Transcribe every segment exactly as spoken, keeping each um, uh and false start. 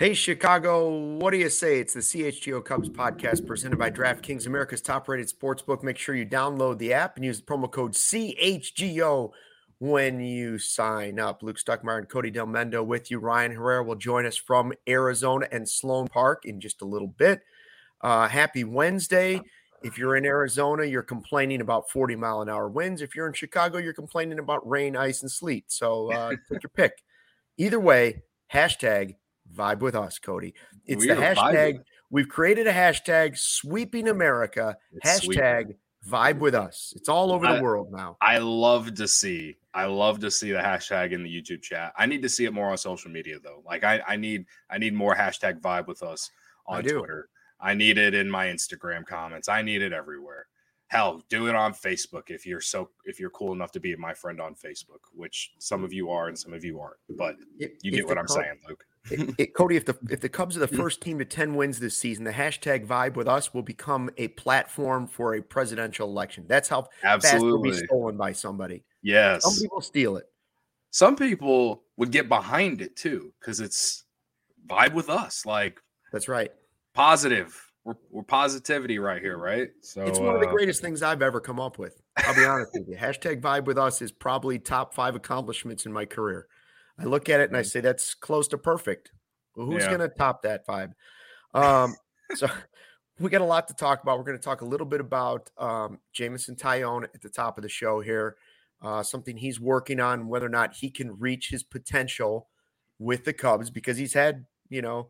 Hey, Chicago, what do you say? It's the C H G O Cubs podcast presented by DraftKings, America's top-rated sportsbook. Make sure you download the app and use the promo code C H G O when you sign up. Luke Stuckmeyer and Cody Del Mendo with you. Ryan Herrera will join us from Arizona and Sloan Park in just a little bit. Uh, happy Wednesday. If you're in Arizona, you're complaining about forty mile an hour winds. If you're in Chicago, you're complaining about rain, ice, and sleet. So uh, take your pick. Either way, hashtag vibe with us, Cody. It's we the hashtag. Vibing. We've created a hashtag sweeping America. It's hashtag sweeping. vibe with us. It's all over I, the world now. I love to see. I love to see the hashtag in the YouTube chat. I need to see it more on social media though. Like I, I need I need more hashtag vibe with us on I do. Twitter. I need it in my Instagram comments. I need it everywhere. Hell, do it on Facebook if you're so if you're cool enough to be my friend on Facebook, which some of you are and some of you aren't. But If, you get what I'm Cubs, saying, Luke. it, it, Cody, if the if the Cubs are the first team to ten wins this season, the hashtag vibe with us will become a platform for a presidential election. That's how fast it'll be stolen by somebody. Yes. Some people steal it. Some people would get behind it too, because it's vibe with us. Like that's right. Positive. We're, we're positivity right here, right? So it's one of the uh, greatest things I've ever come up with. I'll be honest with you. Hashtag vibe with us is probably top five accomplishments in my career. I look at it and I say that's close to perfect. Well, who's yeah. going to top that vibe? Um, so we got a lot to talk about. We're going to talk a little bit about um, Jameson Taillon at the top of the show here. Uh, something he's working on, whether or not he can reach his potential with the Cubs, because he's had, you know,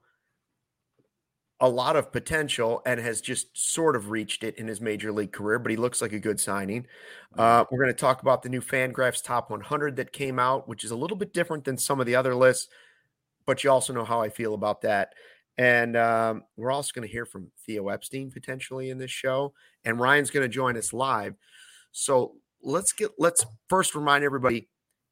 a lot of potential and has just sort of reached it in his major league career, but he looks like a good signing. Uh, we're going to talk about the new Fangraphs Top one hundred that came out, which is a little bit different than some of the other lists, but you also know how I feel about that. And um, we're also going to hear from Theo Epstein potentially in this show, and Ryan's going to join us live. So let's get, let's first remind everybody,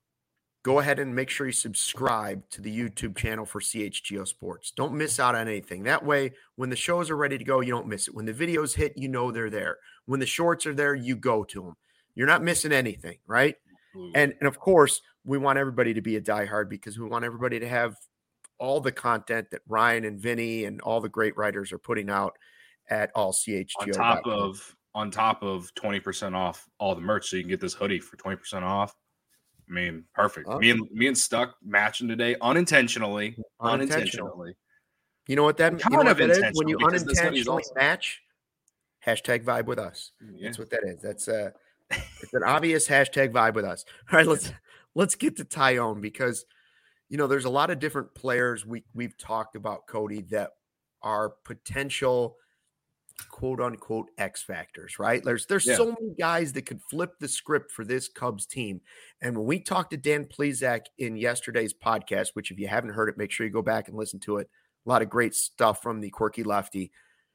go ahead and make sure you subscribe to the YouTube channel for C H G O Sports. Don't miss out on anything. That way, when the shows are ready to go, you don't miss it. When the videos hit, you know they're there. When the shorts are there, you go to them. You're not missing anything, right? Mm-hmm. And, and of course, we want everybody to be a diehard because we want everybody to have all the content that Ryan and Vinny and all the great writers are putting out at all C H G O. On top of on top of twenty percent off all the merch, so you can get this hoodie for twenty percent off. I mean, perfect. Oh. Me and me and Stuck matching today unintentionally. Unintentionally. unintentionally. You know what that, kind you know of what that is? When you unintentionally match, hashtag vibe with us. Yeah. That's what that is. That's a it's an obvious hashtag vibe with us. All right, let's let's get to Taillon, because you know there's a lot of different players we we've talked about, Cody, that are potential quote unquote X factors, right? There's there's yeah. so many guys that could flip the script for this Cubs team. And when we talked to Dan Plesac in yesterday's podcast, which if you haven't heard it, make sure you go back and listen to it. A lot of great stuff from the quirky lefty.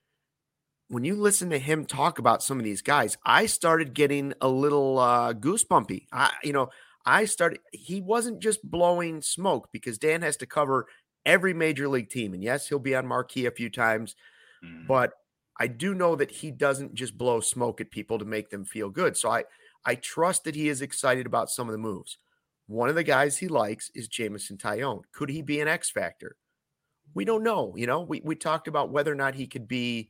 When you listen to him talk about some of these guys, I started getting a little uh, goosebumpy. I, you know, I started, he wasn't just blowing smoke, because Dan has to cover every major league team. And yes, he'll be on Marquee a few times, mm. but I do know that he doesn't just blow smoke at people to make them feel good. So I, I trust that he is excited about some of the moves. One of the guys he likes is Jameson Taillon. Could he be an X factor? We don't know. You know, we, we talked about whether or not he could be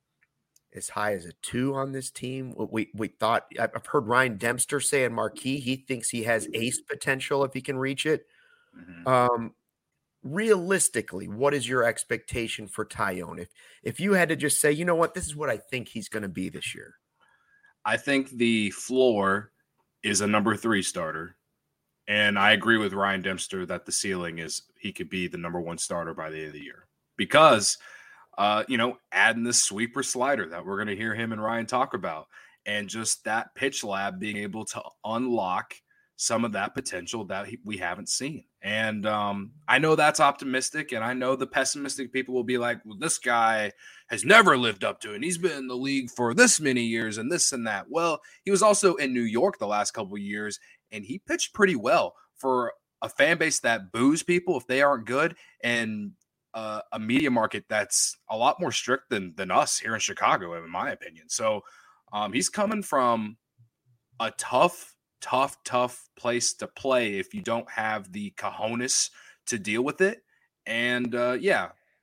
as high as a two on this team. We we thought, I've heard Ryan Dempster say in Marquee, he thinks he has ace potential if he can reach it. Mm-hmm. Um, Realistically, what is your expectation for Taillon? If if you had to just say, you know what, this is what I think he's going to be this year. I think the floor is a number three starter. And I agree with Ryan Dempster that the ceiling is he could be the number one starter by the end of the year. Because, uh, you know, adding this sweeper slider that we're going to hear him and Ryan talk about, and just that pitch lab being able to unlock some of that potential that we haven't seen. And um, I know that's optimistic, and I know the pessimistic people will be like, well, this guy has never lived up to it, and he's been in the league for this many years and this and that. Well, he was also in New York the last couple of years, and he pitched pretty well for a fan base that boos people if they aren't good, and uh, a media market that's a lot more strict than, than us here in Chicago, in my opinion. So um, he's coming from a tough tough, tough place to play if you don't have the cojones to deal with it. And uh, yeah,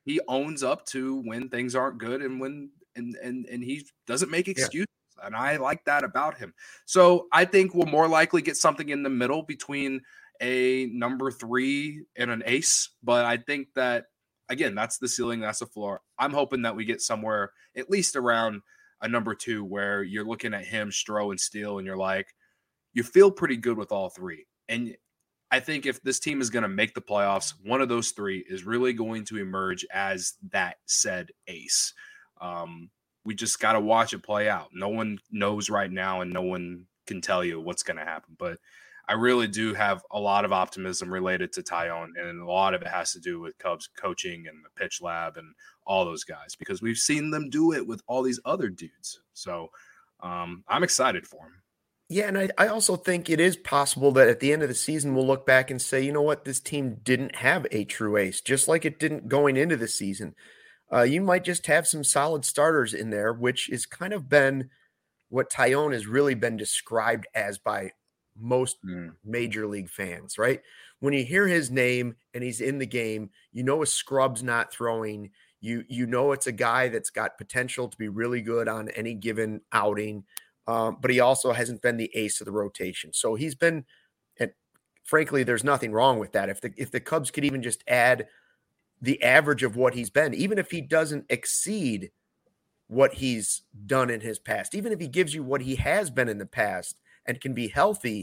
he owns up to when things aren't good and when and and and he doesn't make excuses. Yeah. And I like that about him. So I think we'll more likely get something in the middle between a number three and an ace. But I think that, again, that's the ceiling, that's the floor. I'm hoping that we get somewhere at least around a number two where you're looking at him, Stroh, and Steele, and you're like, you feel pretty good with all three. And I think if this team is going to make the playoffs, one of those three is really going to emerge as that said ace. Um, we just got to watch it play out. No one knows right now, and no one can tell you what's going to happen. But I really do have a lot of optimism related to Taillon, and a lot of it has to do with Cubs coaching and the pitch lab and all those guys, because we've seen them do it with all these other dudes. So um, I'm excited for him. Yeah, and I, I also think it is possible that at the end of the season, we'll look back and say, you know what, this team didn't have a true ace, just like it didn't going into the season. Uh, you might just have some solid starters in there, which is kind of been what Taillon has really been described as by most mm. major league fans, right? When you hear his name and he's in the game, you know a scrub's not throwing. You, you know it's a guy that's got potential to be really good on any given outing. Um, but he also hasn't been the ace of the rotation. So he's been, and frankly, there's nothing wrong with that. If the if the Cubs could even just add the average of what he's been, even if he doesn't exceed what he's done in his past, even if he gives you what he has been in the past and can be healthy,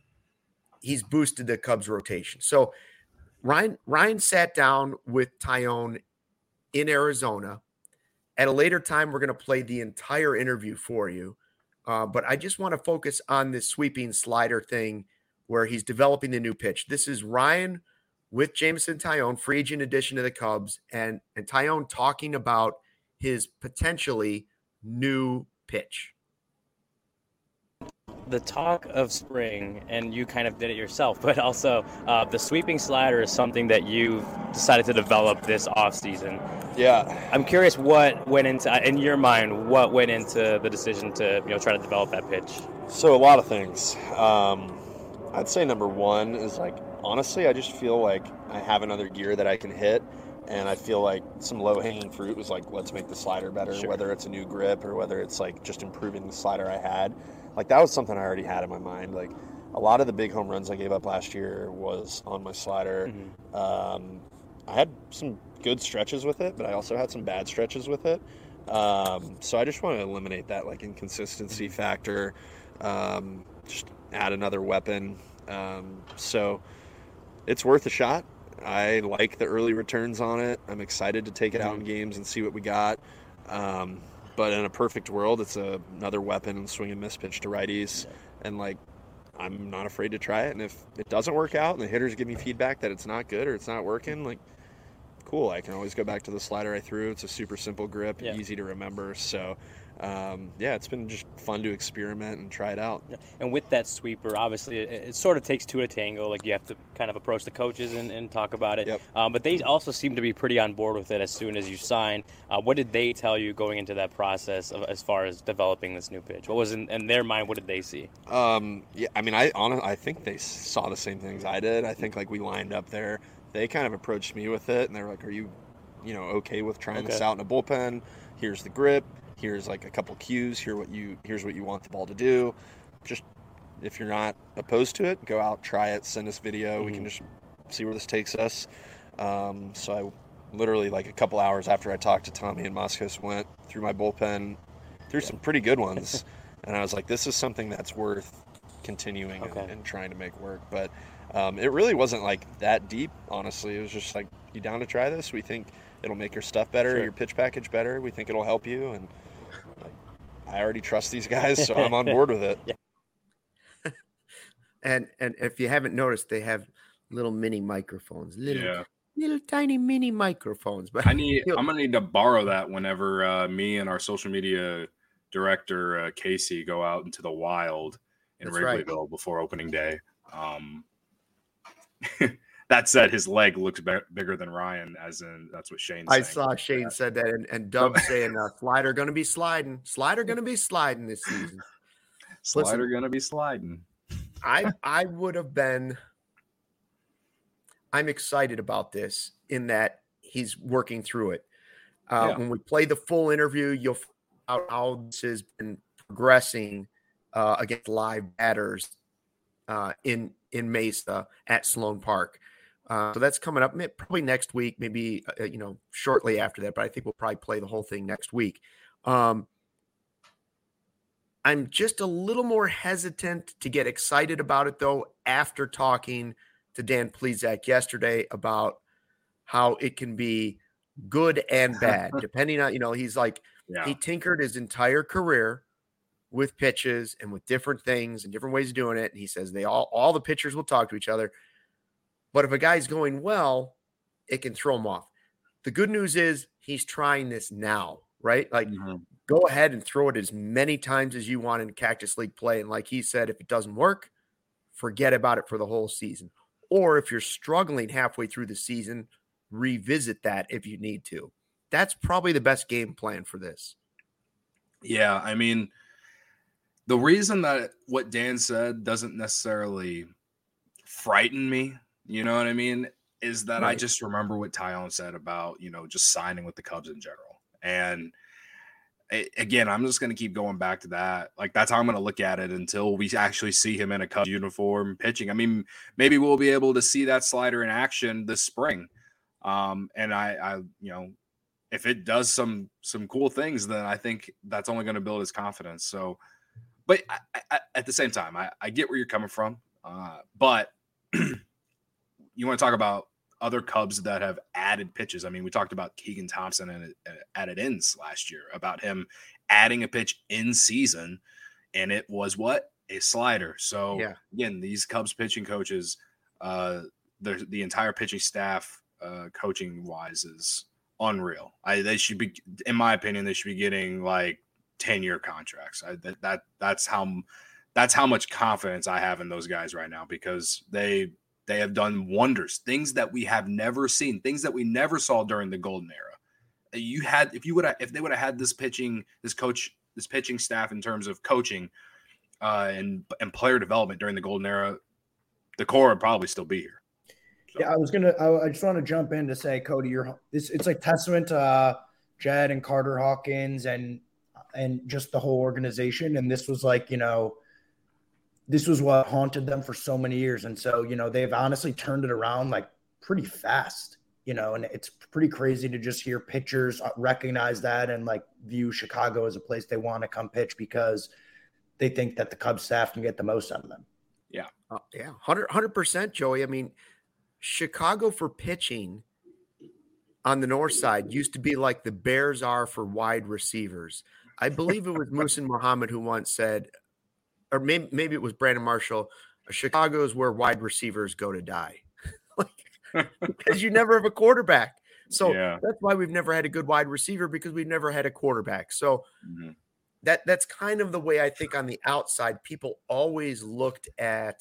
he's boosted the Cubs rotation. So Ryan, Ryan sat down with Taillon in Arizona. At a later time, we're going to play the entire interview for you. Uh, but I just want to focus on this sweeping slider thing where he's developing the new pitch. This is Ryan with Jameson Taillon, free agent addition to the Cubs, and, and Taillon talking about his potentially new pitch. The talk of spring, and you kind of did it yourself, but also uh, the sweeping slider is something that you've decided to develop this offseason. Yeah. I'm curious what went into, in your mind, what went into the decision to, you know, try to develop that pitch? So a lot of things. Um, I'd say number one is, like, honestly, I just feel like I have another gear that I can hit, and I feel like some low-hanging fruit was like, let's make the slider better, sure. Whether it's a new grip or whether it's, like, just improving the slider I had. Like, that was something I already had in my mind. Like, a lot of the big home runs I gave up last year was on my slider. Mm-hmm. Um, I had some good stretches with it, but I also had some bad stretches with it. Um, so I just want to eliminate that, like, inconsistency factor, um, just add another weapon. Um, so it's worth a shot. I like the early returns on it. I'm excited to take it mm-hmm. out in games and see what we got. Um, But in a perfect world, it's a, another weapon and swing and miss pitch to righties. Yeah. And, like, I'm not afraid to try it. And if it doesn't work out and the hitters give me feedback that it's not good or it's not working, like, cool. I can always go back to the slider I threw. It's a super simple grip, yeah. easy to remember. So, um, yeah, it's been just fun to experiment and try it out. Yeah. And with that sweeper, obviously, it, it sort of takes two to tango. Like, you have to kind of approach the coaches and, and talk about it. Yep. Um, but they also seem to be pretty on board with it as soon as you sign. Uh, what did they tell you going into that process of, as far as developing this new pitch? What was in, in their mind? What did they see? Um, yeah, I mean, I honestly, I think they saw the same things I did. I think, like, we lined up there. They kind of approached me with it, and they were like, are you, you know, okay with trying okay. this out in a bullpen? Here's the grip. Here's like a couple cues. Here what you here's what you want the ball to do. Just if you're not opposed to it, go out, try it, send us video. Mm-hmm. We can just see where this takes us. Um, so I literally, like, a couple hours after I talked to Tommy and Moskos, went through my bullpen, through some pretty good ones, and I was like, this is something that's worth continuing okay. and, and trying to make work. But um, it really wasn't like that deep, honestly. It was just like, you down to try this? We think it'll make your stuff better, sure. your pitch package better. We think it'll help you, and like, I already trust these guys, so I'm on board with it. Yeah. and and if you haven't noticed, they have little mini microphones, little yeah. little tiny mini microphones. But I need, I'm gonna need to borrow that whenever uh, me and our social media director uh, Casey go out into the wild in That's Wrigleyville right. before opening day. Um, That said, his leg looks be- bigger than Ryan, as in that's what Shane said. I saw Shane said that, and, and Dub saying uh, slider going to be sliding. Slider going to be sliding this season. Slider going to be sliding. I I would have been – I'm excited about this in that he's working through it. Uh, Yeah. When we play the full interview, you'll find out how this has been progressing uh, against live batters uh, in in Mesa at Sloan Park. Uh, so that's coming up probably next week, maybe uh, you know shortly after that. But I think we'll probably play the whole thing next week. Um, I'm just a little more hesitant to get excited about it, though, after talking to Dan Plesac yesterday about how it can be good and bad, depending on, you know, he's like, Yeah. he tinkered his entire career with pitches and with different things and different ways of doing it. And he says they all, all the pitchers will talk to each other. But if a guy's going well, it can throw him off. The good news is he's trying this now, right? Like, Mm-hmm. go ahead and throw it as many times as you want in Cactus League play. And like he said, if it doesn't work, forget about it for the whole season. Or if you're struggling halfway through the season, revisit that if you need to. That's probably the best game plan for this. Yeah, I mean, the reason that what Dan said doesn't necessarily frighten me, you know what I mean, is that right. I just remember what Taillon said about, you know, just signing with the Cubs in general. And again, I'm just going to keep going back to that. Like, that's how I'm going to look at it until we actually see him in a Cubs uniform pitching. I mean, maybe we'll be able to see that slider in action this spring. Um, and I, I, you know, if it does some some cool things, then I think that's only going to build his confidence. So, but I, I, at the same time, I, I get where you're coming from. Uh, but you want to talk about other Cubs that have added pitches. I mean, we talked about Keegan Thompson and it, at it ends last year about him adding a pitch in season, and it was what? A slider. So yeah. Again, these Cubs pitching coaches, uh, the the entire pitching staff, uh, coaching wise, is unreal. I they should be, in my opinion, they should be getting like ten year contracts. I, that that that's how that's how much confidence I have in those guys right now, because they. They have done wonders, things that we have never seen, things that we never saw during the golden era. You had, if you would have, if they would have had this pitching, this coach, this pitching staff in terms of coaching uh, and and player development during the golden era, the core would probably still be here. So. Yeah, I was gonna. I, I just want to jump in to say, Cody, you're this. It's like testament to uh, Jed and Carter Hawkins and and just the whole organization. And this was like, you know. This was what haunted them for so many years. And so, you know, they've honestly turned it around like pretty fast, you know, and it's pretty crazy to just hear pitchers recognize that and like view Chicago as a place they want to come pitch because they think that the Cubs staff can get the most out of them. Yeah. Uh, yeah. one hundred percent, Joey. I mean, Chicago for pitching on the north side used to be like the Bears are for wide receivers. I believe it was Muhsin Muhammad who once said, or maybe, maybe it was Brandon Marshall, Chicago is where wide receivers go to die. Like, because you never have a quarterback. So yeah. That's why we've never had a good wide receiver, because we've never had a quarterback. So mm-hmm. that that's kind of the way I think on the outside, people always looked at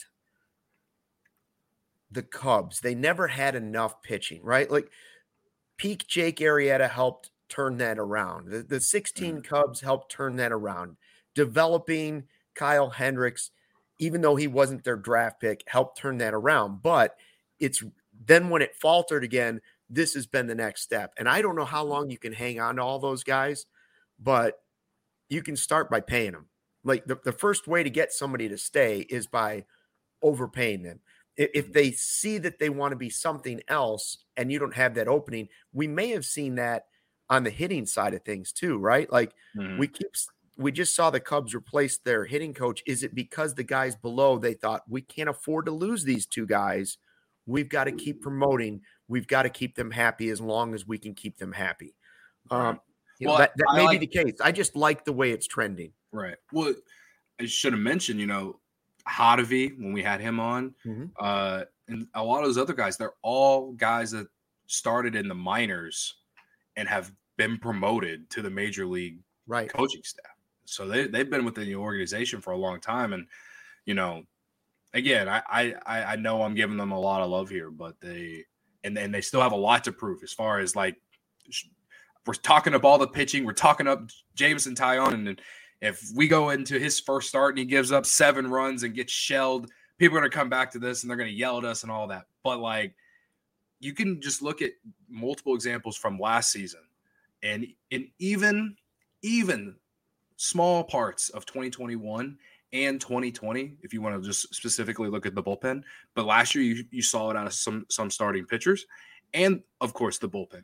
the Cubs. They never had enough pitching, right? Like peak Jake Arrieta helped turn that around. The, the sixteen mm-hmm. Cubs helped turn that around. Developing Kyle Hendricks, even though he wasn't their draft pick, helped turn that around. But it's then when it faltered again, this has been the next step. And I don't know how long you can hang on to all those guys, but you can start by paying them. Like the, the first way to get somebody to stay is by overpaying them. If, if they see that they want to be something else and you don't have that opening, we may have seen that on the hitting side of things too, right? Like mm-hmm. we keep We just saw the Cubs replace their hitting coach. Is it because the guys below, they thought we can't afford to lose these two guys? We've got to keep promoting. We've got to keep them happy as long as we can keep them happy. Um, you well, know, that that I may like, be the case. I just like the way it's trending. Right. Well, I should have mentioned, you know, Hottovy when we had him on, mm-hmm. uh, and a lot of those other guys, they're all guys that started in the minors and have been promoted to the major league right. coaching staff. So they, they've been within the organization for a long time. And, you know, again, I, I, I know I'm giving them a lot of love here, but they, and then they still have a lot to prove as far as like, we're talking up all the pitching. We're talking up Jameson Taillon. And if we go into his first start and he gives up seven runs and gets shelled, people are going to come back to this and they're going to yell at us and all that. But like, you can just look at multiple examples from last season, and in even even small parts of twenty twenty-one and twenty twenty, if you want to just specifically look at the bullpen. But last year, you, you saw it out of some some starting pitchers, and of course the bullpen.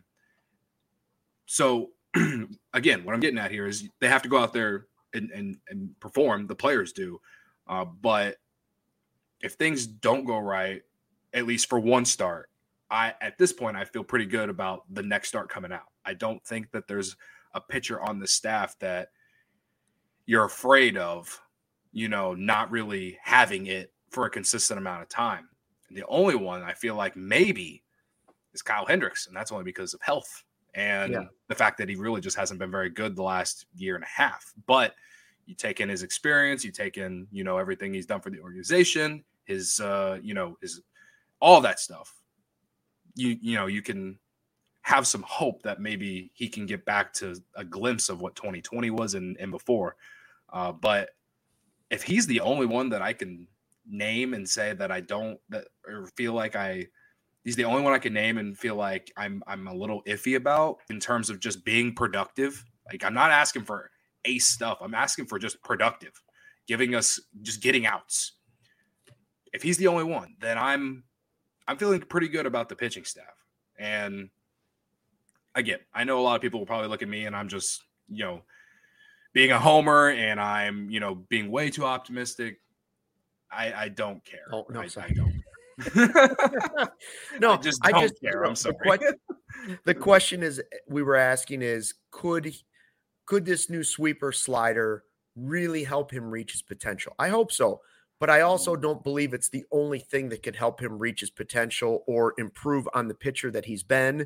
So again, what I'm getting at here is they have to go out there and and, and perform. The players do, uh, but if things don't go right, at least for one start, I at this point I feel pretty good about the next start coming out. I don't think that there's a pitcher on the staff that you're afraid of, you know, not really having it for a consistent amount of time. And the only one I feel like maybe is Kyle Hendricks, and that's only because of health and yeah. the fact that he really just hasn't been very good the last year and a half. But you take in his experience, you take in, you know, everything he's done for the organization, his, uh, you know, his, all that stuff. You, you know, you can have some hope that maybe he can get back to a glimpse of what twenty twenty was and, and before. Uh, but if he's the only one that I can name and say that I don't that or feel like I he's the only one I can name and feel like I'm I'm a little iffy about in terms of just being productive. Like, I'm not asking for ace stuff. I'm asking for just productive, giving us just getting outs. If he's the only one, then I'm I'm feeling pretty good about the pitching staff. And again, I know a lot of people will probably look at me and I'm just, you know, being a homer and I'm, you know, being way too optimistic. I, I don't care. Oh, no, I, sorry. I don't. no, I just don't I just, care. I'm sorry. The question, the question is, we were asking is, could could this new sweeper slider really help him reach his potential? I hope so, but I also don't believe it's the only thing that could help him reach his potential or improve on the pitcher that he's been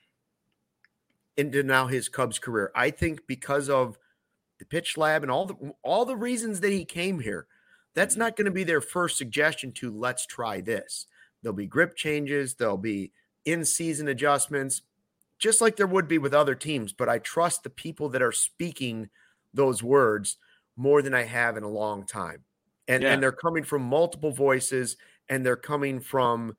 into now his Cubs career. I think because of the pitch lab and all the all the reasons that he came here, that's not going to be their first suggestion to let's try this. There'll be grip changes. There'll be in-season adjustments, just like there would be with other teams. But I trust the people that are speaking those words more than I have in a long time. And, yeah. and they're coming from multiple voices, and they're coming from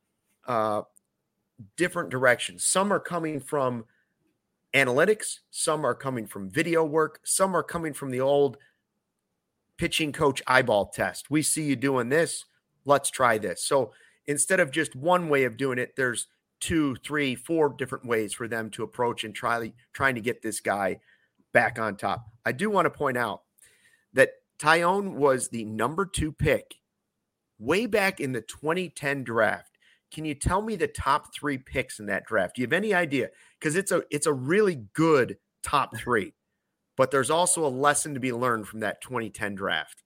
uh, different directions. Some are coming from analytics. Some are coming from video work. Some are coming from the old pitching coach eyeball test. We see you doing this. Let's try this. So instead of just one way of doing it, there's two, three, four different ways for them to approach and try trying to get this guy back on top. I do want to point out that Taillon was the number two pick way back in the twenty ten draft. Can you tell me the top three picks in that draft? Do you have any idea? Because it's a it's a really good top three. But there's also a lesson to be learned from that twenty ten draft.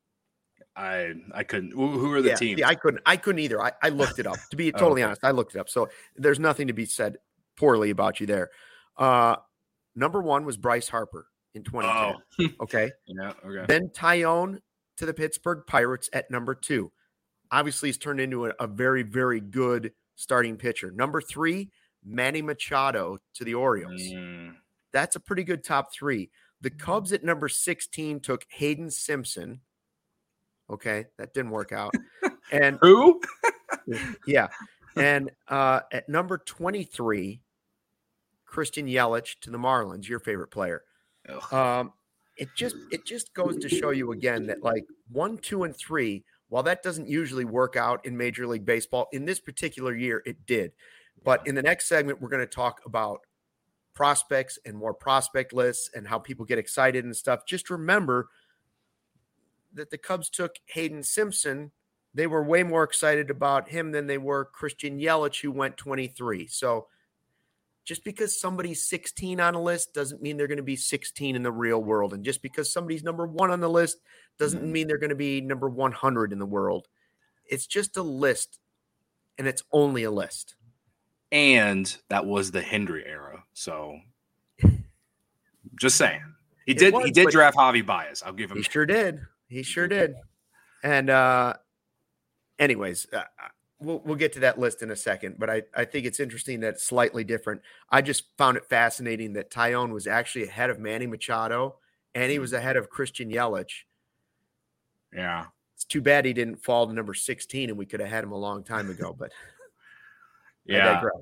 I I couldn't. Who are the yeah, teams? Yeah, I couldn't. I couldn't either. I, I looked it up. To be totally oh, okay. honest, I looked it up. So there's nothing to be said poorly about you there. Uh, number one was Bryce Harper in twenty ten. Oh. Okay. Yeah. Okay. Then Taillon to the Pittsburgh Pirates at number two. Obviously, he's turned into a, a very, very good starting pitcher. Number three, Manny Machado to the Orioles. Mm. That's a pretty good top three. The Cubs at number sixteen took Hayden Simpson. Okay, that didn't work out. And who? yeah. And uh, at number twenty-three, Christian Yelich to the Marlins, your favorite player. Um, it just it just goes to show you again that like one, two, and three, while that doesn't usually work out in Major League Baseball, in this particular year, it did. But in the next segment, we're going to talk about prospects and more prospect lists and how people get excited and stuff. Just remember that the Cubs took Hayden Simpson. They were way more excited about him than they were Christian Yelich, who went twenty-three. So just because somebody's sixteen on a list doesn't mean they're going to be sixteen in the real world. And just because somebody's number one on the list doesn't mean they're going to be number one hundred in the world. It's just a list, and it's only a list. And that was the Hendry era. So just saying. He did was, he did draft Javi Baez. I'll give him He that. sure did. He sure did. And uh anyways, uh, we'll we'll get to that list in a second, but I, I think it's interesting that it's slightly different. I just found it fascinating that Taillon was actually ahead of Manny Machado and he was ahead of Christian Yelich. Yeah. It's too bad he didn't fall to number sixteen and we could have had him a long time ago, but Yeah. I digress.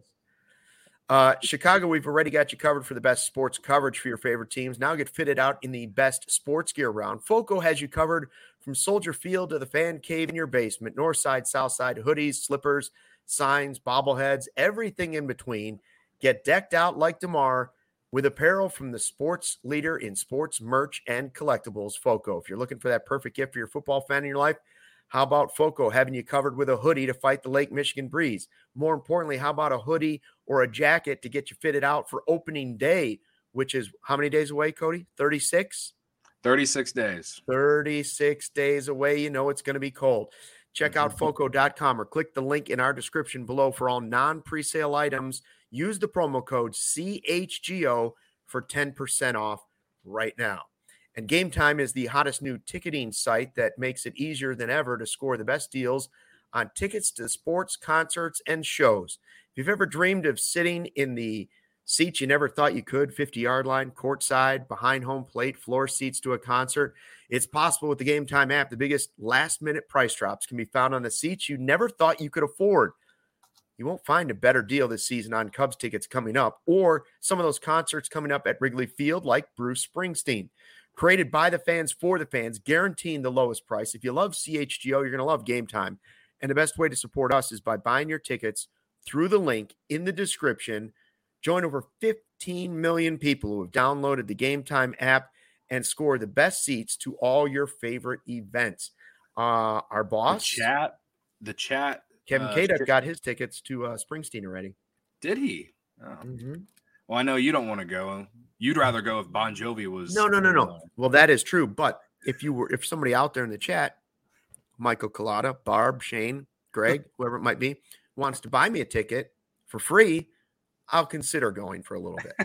Uh, Chicago, we've already got you covered for the best sports coverage for your favorite teams. Now get fitted out in the best sports gear round. Foco has you covered from Soldier Field to the fan cave in your basement, north side, south side, hoodies, slippers, signs, bobbleheads, everything in between. Get decked out like DeMar with apparel from the sports leader in sports merch and collectibles, Foco. If you're looking for that perfect gift for your football fan in your life, how about Foco having you covered with a hoodie to fight the Lake Michigan breeze? More importantly, how about a hoodie or a jacket to get you fitted out for opening day, which is how many days away, Cody? thirty-six? thirty-six days. thirty-six days away. You know it's going to be cold. Check out foco dot com or click the link in our description below for all non-presale items. Use the promo code C H G O for ten percent off right now. And Game Time is the hottest new ticketing site that makes it easier than ever to score the best deals on tickets to sports, concerts, and shows. If you've ever dreamed of sitting in the seats you never thought you could, fifty-yard line, courtside, behind home plate, floor seats to a concert, it's possible with the Game Time app. The biggest last-minute price drops can be found on the seats you never thought you could afford. You won't find a better deal this season on Cubs tickets coming up or some of those concerts coming up at Wrigley Field like Bruce Springsteen. Created by the fans for the fans, guaranteeing the lowest price. If you love C H G O, you're going to love Game Time. And the best way to support us is by buying your tickets through the link in the description. Join over fifteen million people who have downloaded the Game Time app and score the best seats to all your favorite events. Uh, our boss, The chat, the chat. Kevin uh, Kaduk, got his tickets to uh, Springsteen already. Did he? Oh. Mm-hmm. Well, I know you don't want to go. You'd rather go if Bon Jovi was. No, no, no, no. Well, that is true. But if you were, if somebody out there in the chat, Michael Collada, Barb, Shane, Greg, whoever it might be, wants to buy me a ticket for free, I'll consider going for a little bit.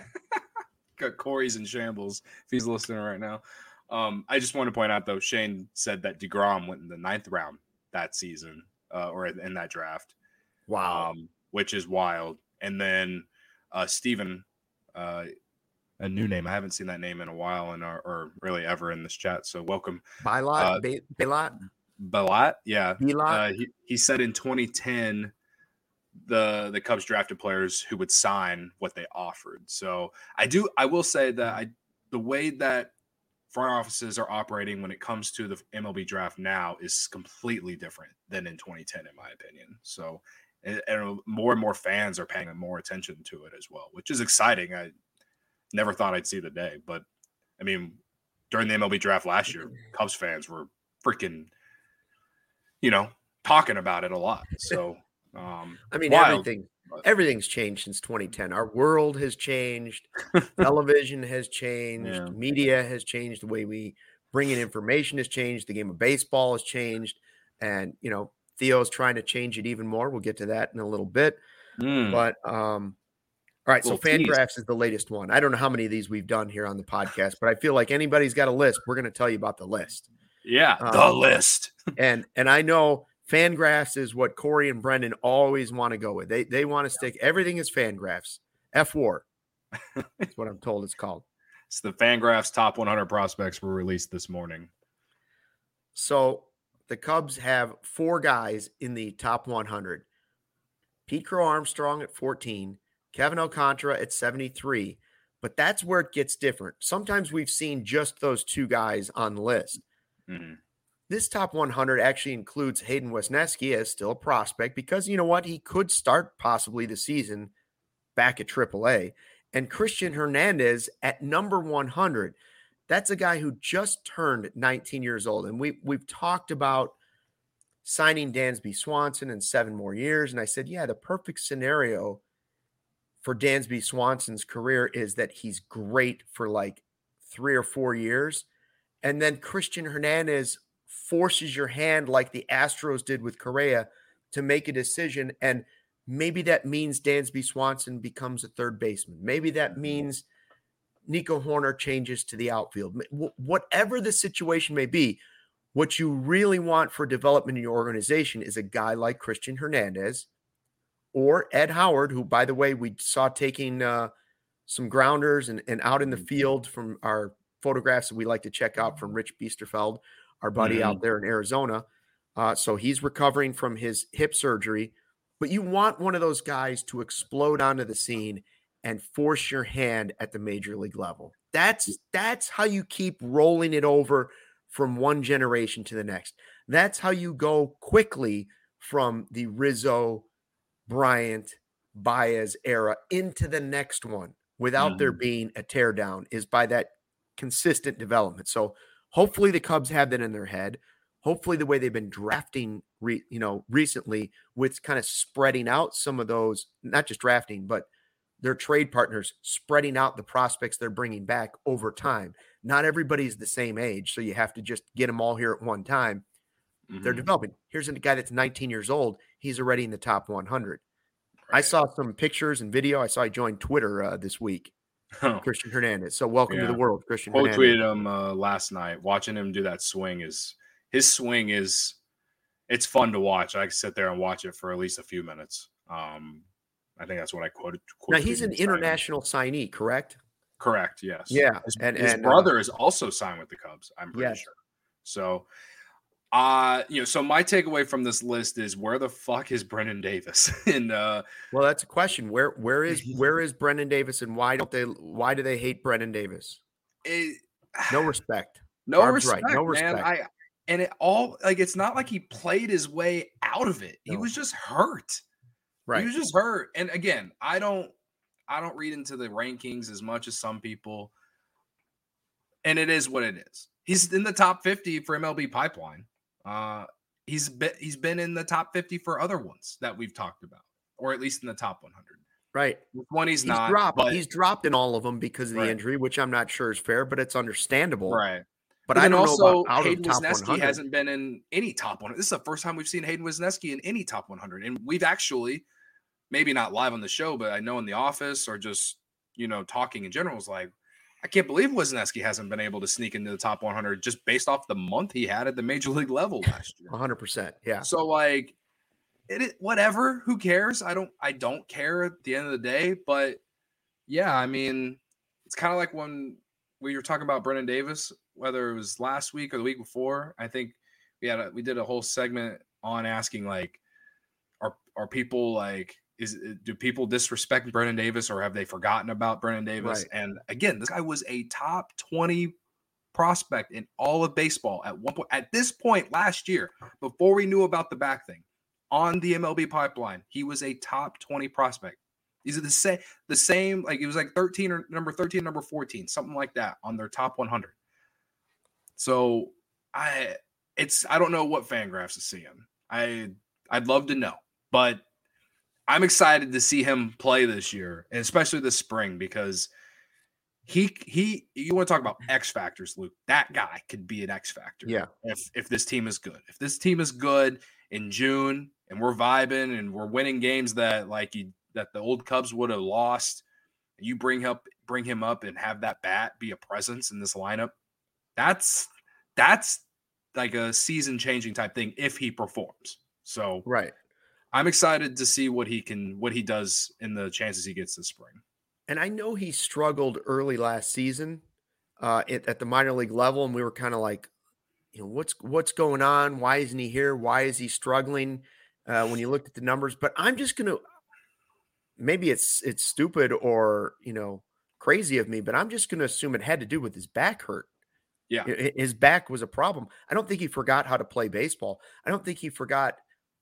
Got Corey's in shambles if he's listening right now. Um, I just want to point out, though, Shane said that DeGrom went in the ninth round that season uh, or in that draft. Wow. Um, which is wild. And then uh, Steven, uh, a new name. I haven't seen that name in a while and or, or really ever in this chat. So welcome. Bilot, Uh, Be- Bilot, Balat, yeah. Bilot. Uh, he, he said in twenty ten the the Cubs drafted players who would sign what they offered. So I do I will say that I the way that front offices are operating when it comes to the M L B draft now is completely different than in twenty ten, in my opinion. So and, and more and more fans are paying more attention to it as well, which is exciting. I never thought I'd see the day, but I mean, during the M L B draft last year, Cubs fans were freaking, you know, talking about it a lot. So, um, I mean, wild, everything, but- everything's changed since twenty ten. Our world has changed. Television has changed. Yeah. Media has changed. The way we bring in information has changed. The game of baseball has changed. And, you know, Theo's trying to change it even more. We'll get to that in a little bit. Mm. But, um, all right, so Little tease. Fangraphs is the latest one. I don't know how many of these we've done here on the podcast, but I feel like anybody's got a list. We're going to tell you about the list. Yeah, Um, the list. And and I know Fangraphs is what Corey and Brendan always want to go with. They they want to stick everything is Fangraphs. F War. That's what I'm told it's called. It's the Fangraphs top one hundred prospects were released this morning. So the Cubs have four guys in the top one hundred. Pete Crow Armstrong at fourteen, Kevin Alcantara at seventy-three. But that's where it gets different. Sometimes we've seen just those two guys on the list. Mhm. This top one hundred actually includes Hayden Wesneski as still a prospect because you know what? He could start possibly the season back at triple A. And Christian Hernandez at number one hundred. That's a guy who just turned nineteen years old. And we, we've talked about signing Dansby Swanson in seven more years. And I said, yeah, the perfect scenario for Dansby Swanson's career is that he's great for like three or four years. And then Christian Hernandez forces your hand like the Astros did with Correa to make a decision. And maybe that means Dansby Swanson becomes a third baseman. Maybe that means Nico Horner changes to the outfield. Wh- Whatever the situation may be, what you really want for development in your organization is a guy like Christian Hernandez or Ed Howard, who, by the way, we saw taking uh, some grounders and, and out in the field from our photographs that we like to check out from Rich Biesterfeld, our buddy Mhm. out there in Arizona. Uh, so he's recovering from his hip surgery. but you want one of those guys to explode onto the scene and force your hand at the major league level. That's that's how you keep rolling it over from one generation to the next. That's how you go quickly from the Rizzo, Bryant, Baez era into the next one without mm-hmm. there being a teardown, is by that consistent development. So hopefully the Cubs have that in their head. Hopefully the way they've been drafting, re, you know, recently with kind of spreading out some of those, not just drafting, but their trade partners spreading out the prospects they're bringing back over time. Not everybody's the same age, so you have to just get them all here at one time. Mm-hmm. They're developing. Here's a guy that's nineteen years old. He's already in the top one hundred. Right. I saw some pictures and video. I saw he joined Twitter uh, this week. Oh. Christian Hernandez. So welcome yeah. to the world, Christian Quote Hernandez. tweeted him uh, last night. Watching him do that swing is his swing is it's fun to watch. I can sit there and watch it for at least a few minutes. Um, I think that's what I quoted. Now he's an international signee, correct? Correct. Yes. Yeah, his, and his and, brother uh, is also signed with the Cubs. I'm pretty yes. sure. So, uh, you know, so my takeaway from this list is where the fuck is Brendan Davis? and uh, well, that's a question. Where where is where is Brendan Davis, and why don't they? Why do they hate Brendan Davis? It, no respect. No Barb's respect. Right. No respect. Man. I and it all like it's not like he played his way out of it. No. He was just hurt. Right. He was just hurt. And again, I don't I don't read into the rankings as much as some people. And it is what it is. He's in the top fifty for M L B Pipeline. Uh, he's been, he's been in the top fifty for other ones that we've talked about, or at least in the top one hundred. Right. One he's, he's not. Dropped. But, he's dropped in all of them because of the right. injury, which I'm not sure is fair, but it's understandable. Right. But, but I don't also, know about out Hayden of top Wesneski one hundred. hasn't been in any top one hundred. This is the first time we've seen Hayden Wesneski in any top one hundred. And we've actually, maybe not live on the show, but I know in the office or just, you know, talking in general is like, I can't believe Wesneski hasn't been able to sneak into the top one hundred just based off the month he had at the major league level last year. one hundred percent. Yeah. So like, it, it whatever, who cares? I don't, I don't care at the end of the day, but yeah, I mean, it's kind of like when we were talking about Brendan Davis, whether it was last week or the week before. I think we had a, we did a whole segment on asking like, are are people like, is do people disrespect Brendan Davis or have they forgotten about Brendan Davis? Right. And again, this guy was a top twenty prospect in all of baseball at one point. At this point last year, before we knew about the back thing, on the M L B Pipeline, he was a top twenty prospect. These are the same, the same, like it was like thirteen or number thirteen, number fourteen, something like that on their top one hundred. So I, it's, I don't know what Fangraphs is seeing. I, I'd love to know, but I'm excited to see him play this year, and especially this spring, because he, he, you want to talk about X factors, Luke, that guy could be an X factor. Yeah. If, if this team is good, if this team is good in June and we're vibing and we're winning games that like you, that the old Cubs would have lost, you bring up, bring him up and have that bat be a presence in this lineup. That's, that's like a season changing type thing if he performs. So, right. I'm excited to see what he can, what he does in the chances he gets this spring. And I know he struggled early last season uh, at, at the minor league level. And we were kind of like, you know, what's, what's going on? Why isn't he here? Why is he struggling uh, when you looked at the numbers? But I'm just going to, maybe it's, it's stupid or, you know, crazy of me, but I'm just going to assume it had to do with his back hurt. Yeah. His back was a problem. I don't think he forgot how to play baseball. I don't think he forgot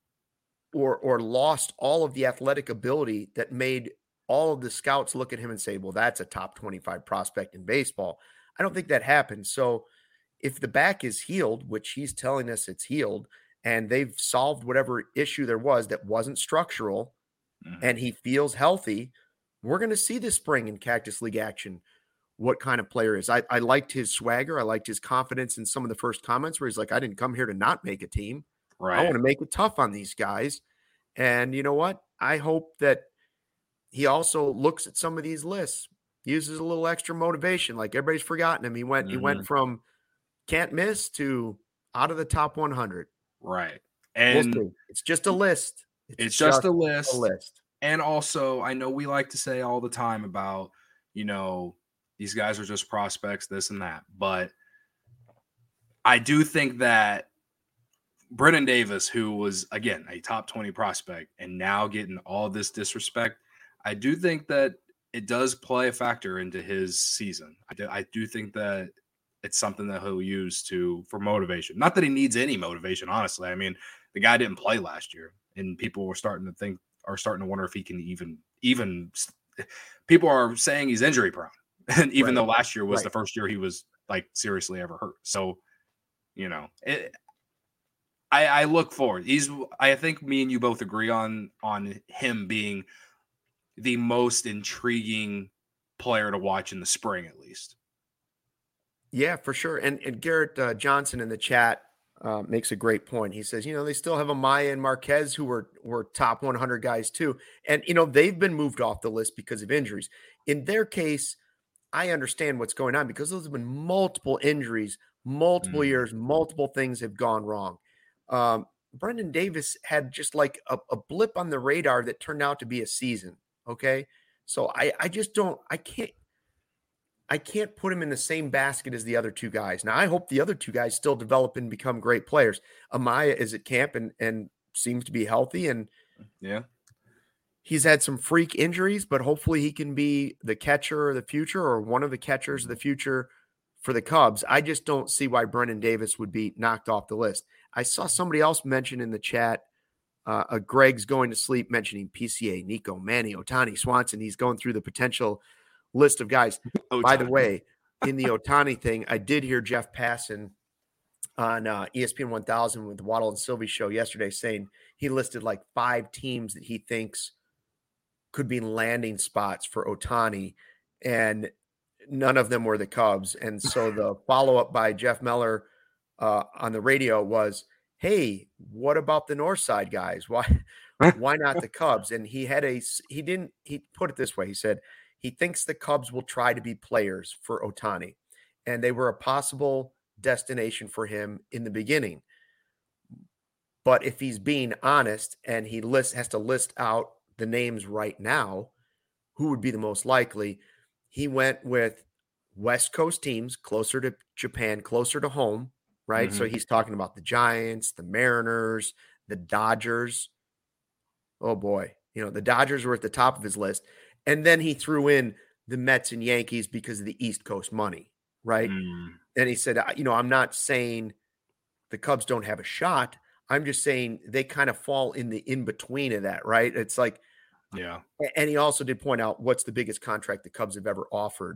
or or lost all of the athletic ability that made all of the scouts look at him and say, well, that's a top twenty-five prospect in baseball. I don't think that happened. So if the back is healed, which he's telling us it's healed, and they've solved whatever issue there was that wasn't structural, mm-hmm. and he feels healthy, we're going to see this spring in Cactus League action what kind of player is. I, I liked his swagger. I liked his confidence in some of the first comments where he's like, I didn't come here to not make a team. Right. I want to make it tough on these guys. And you know what? I hope that he also looks at some of these lists, uses a little extra motivation. Like everybody's forgotten him. He went, mm-hmm. he went from can't miss to out of the top one hundred. Right. And we'll it's just a list. It's, it's just, just a list. a list. And also, I know we like to say all the time about, you know, these guys are just prospects, this and that. But I do think that Brennan Davis, who was, again, a top twenty prospect and now getting all this disrespect, I do think that it does play a factor into his season. I do, I do think that it's something that he'll use to for motivation. Not that he needs any motivation, honestly. I mean, the guy didn't play last year, and people were starting to think are starting to wonder if he can even even. People are saying he's injury prone, and even right. though last year was right. the first year he was like seriously ever hurt. So, you know, it, I, I look forward. He's. I think me and you both agree on on him being the most intriguing player to watch in the spring, at least. Yeah, for sure. And, and Garrett uh, Johnson in the chat uh, makes a great point. He says, you know, they still have Amaya and Marquez who were were top one hundred guys too. And, you know, they've been moved off the list because of injuries. In their case, I understand what's going on because those have been multiple injuries, multiple mm. years, multiple things have gone wrong. Um, Brendan Davis had just like a, a blip on the radar that turned out to be a season. Okay. So I, I just don't, I can't, I can't put him in the same basket as the other two guys. Now, I hope the other two guys still develop and become great players. Amaya is at camp and, and seems to be healthy. And yeah, he's had some freak injuries, but hopefully he can be the catcher of the future or one of the catchers of the future for the Cubs. I just don't see why Brendan Davis would be knocked off the list. I saw somebody else mention in the chat, uh, a Greg's going to sleep mentioning P C A, Nico, Manny, Ohtani, Swanson. He's going through the potential list of guys. Ohtani. By the way, in the Ohtani thing, I did hear Jeff Passan on uh, E S P N one thousand with the Waddle and Sylvie show yesterday saying he listed like five teams that he thinks could be landing spots for Ohtani, and none of them were the Cubs. And so the follow-up by Jeff Meller uh, on the radio was, hey, what about the North Side guys? Why, why not the Cubs? And he had a, he didn't, he put it this way. He said, he thinks the Cubs will try to be players for Ohtani, and they were a possible destination for him in the beginning. But if he's being honest and he lists, has to list out the names right now, who would be the most likely? He went with West Coast teams closer to Japan, closer to home, right? Mm-hmm. So he's talking about the Giants, the Mariners, the Dodgers. Oh boy. You know, the Dodgers were at the top of his list. And then he threw in the Mets and Yankees because of the East Coast money, right? Mm. And he said, you know, I'm not saying the Cubs don't have a shot. I'm just saying they kind of fall in the in-between of that, right? It's like, yeah. And he also did point out what's the biggest contract the Cubs have ever offered.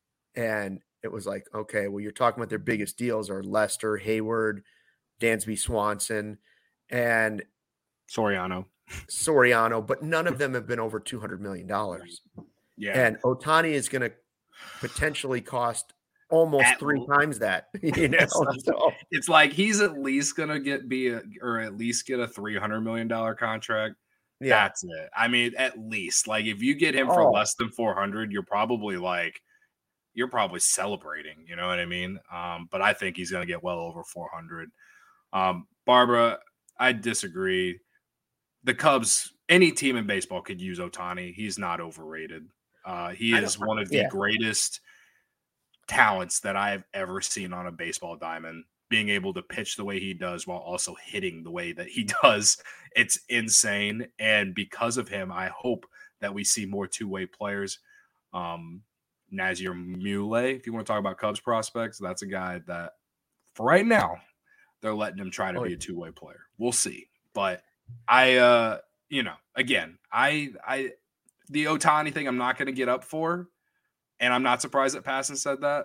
And it was like, okay, well, you're talking about their biggest deals are Lester, Hayward, Dansby Swanson, and Soriano. Soriano, but none of them have been over two hundred million dollars. Yeah. And Ohtani is going to potentially cost almost at three l- times that. You know? it's, so, it's like he's at least going to get be a, or at least get a three hundred million dollars contract. Yeah. That's it. I mean, at least like if you get him for oh. less than four hundred, you're probably like, you're probably celebrating, you know what I mean? Um, but I think he's going to get well over four hundred. Um, Barbara, I disagree. The Cubs, any team in baseball could use Ohtani. He's not overrated. Uh, he is one of the yeah. greatest talents that I have ever seen on a baseball diamond. Being able to pitch the way he does while also hitting the way that he does, it's insane. And because of him, I hope that we see more two-way players. Um, Nazir Muley, if you want to talk about Cubs prospects, that's a guy that, for right now, they're letting him try to oh, be a two-way player. We'll see. But I, uh, you know, again, I, I, the Ohtani thing, I'm not going to get up for, and I'm not surprised that Passan said that.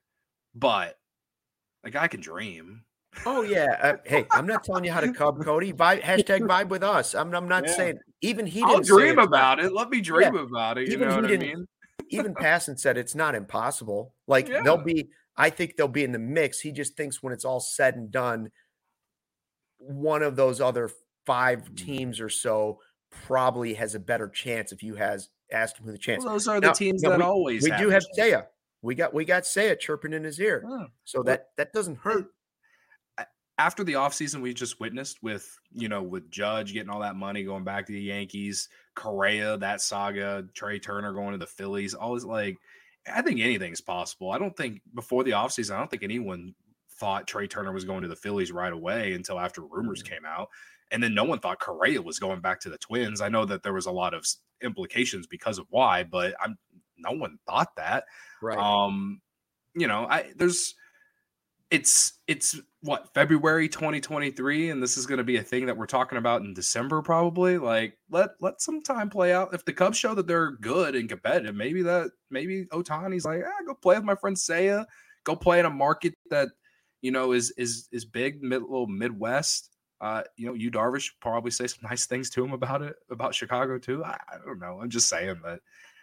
But the guy can dream. Oh yeah. Uh, hey, I'm not telling you how to Cub, Cody. Vibe, hashtag vibe with us. I'm, I'm not yeah. saying even he. Didn't I'll dream say about it. Let me dream yeah. about it. You even know what I didn't, mean? Even Passan said it's not impossible. Like yeah. they'll be. I think they'll be in the mix. He just thinks when it's all said and done, one of those other five teams or so probably has a better chance if you has asked him who the chance. Well, those are now, the teams that we, always we have do have Seiya. We got we got Seiya chirping in his ear. Oh. So well, that that doesn't hurt. After the offseason we just witnessed with, you know, with Judge getting all that money going back to the Yankees, Correa, that saga, Trey Turner going to the Phillies, always like I think anything's possible. I don't think before the offseason, I don't think anyone thought Trey Turner was going to the Phillies right away until after rumors came out. And then no one thought Correa was going back to the Twins. I know that there was a lot of implications because of why, but I'm no one thought that. Right. Um, you know, I there's it's it's what February twenty twenty-three, and this is going to be a thing that we're talking about in December probably. Like let let some time play out. If the Cubs show that they're good and competitive, maybe that maybe Ohtani's like, ah, go play with my friend Seiya, go play in a market that you know is is is big, mid little Midwest. Uh, you know, Yu Darvish probably say some nice things to him about it, about Chicago too. I, I don't know. I'm just saying that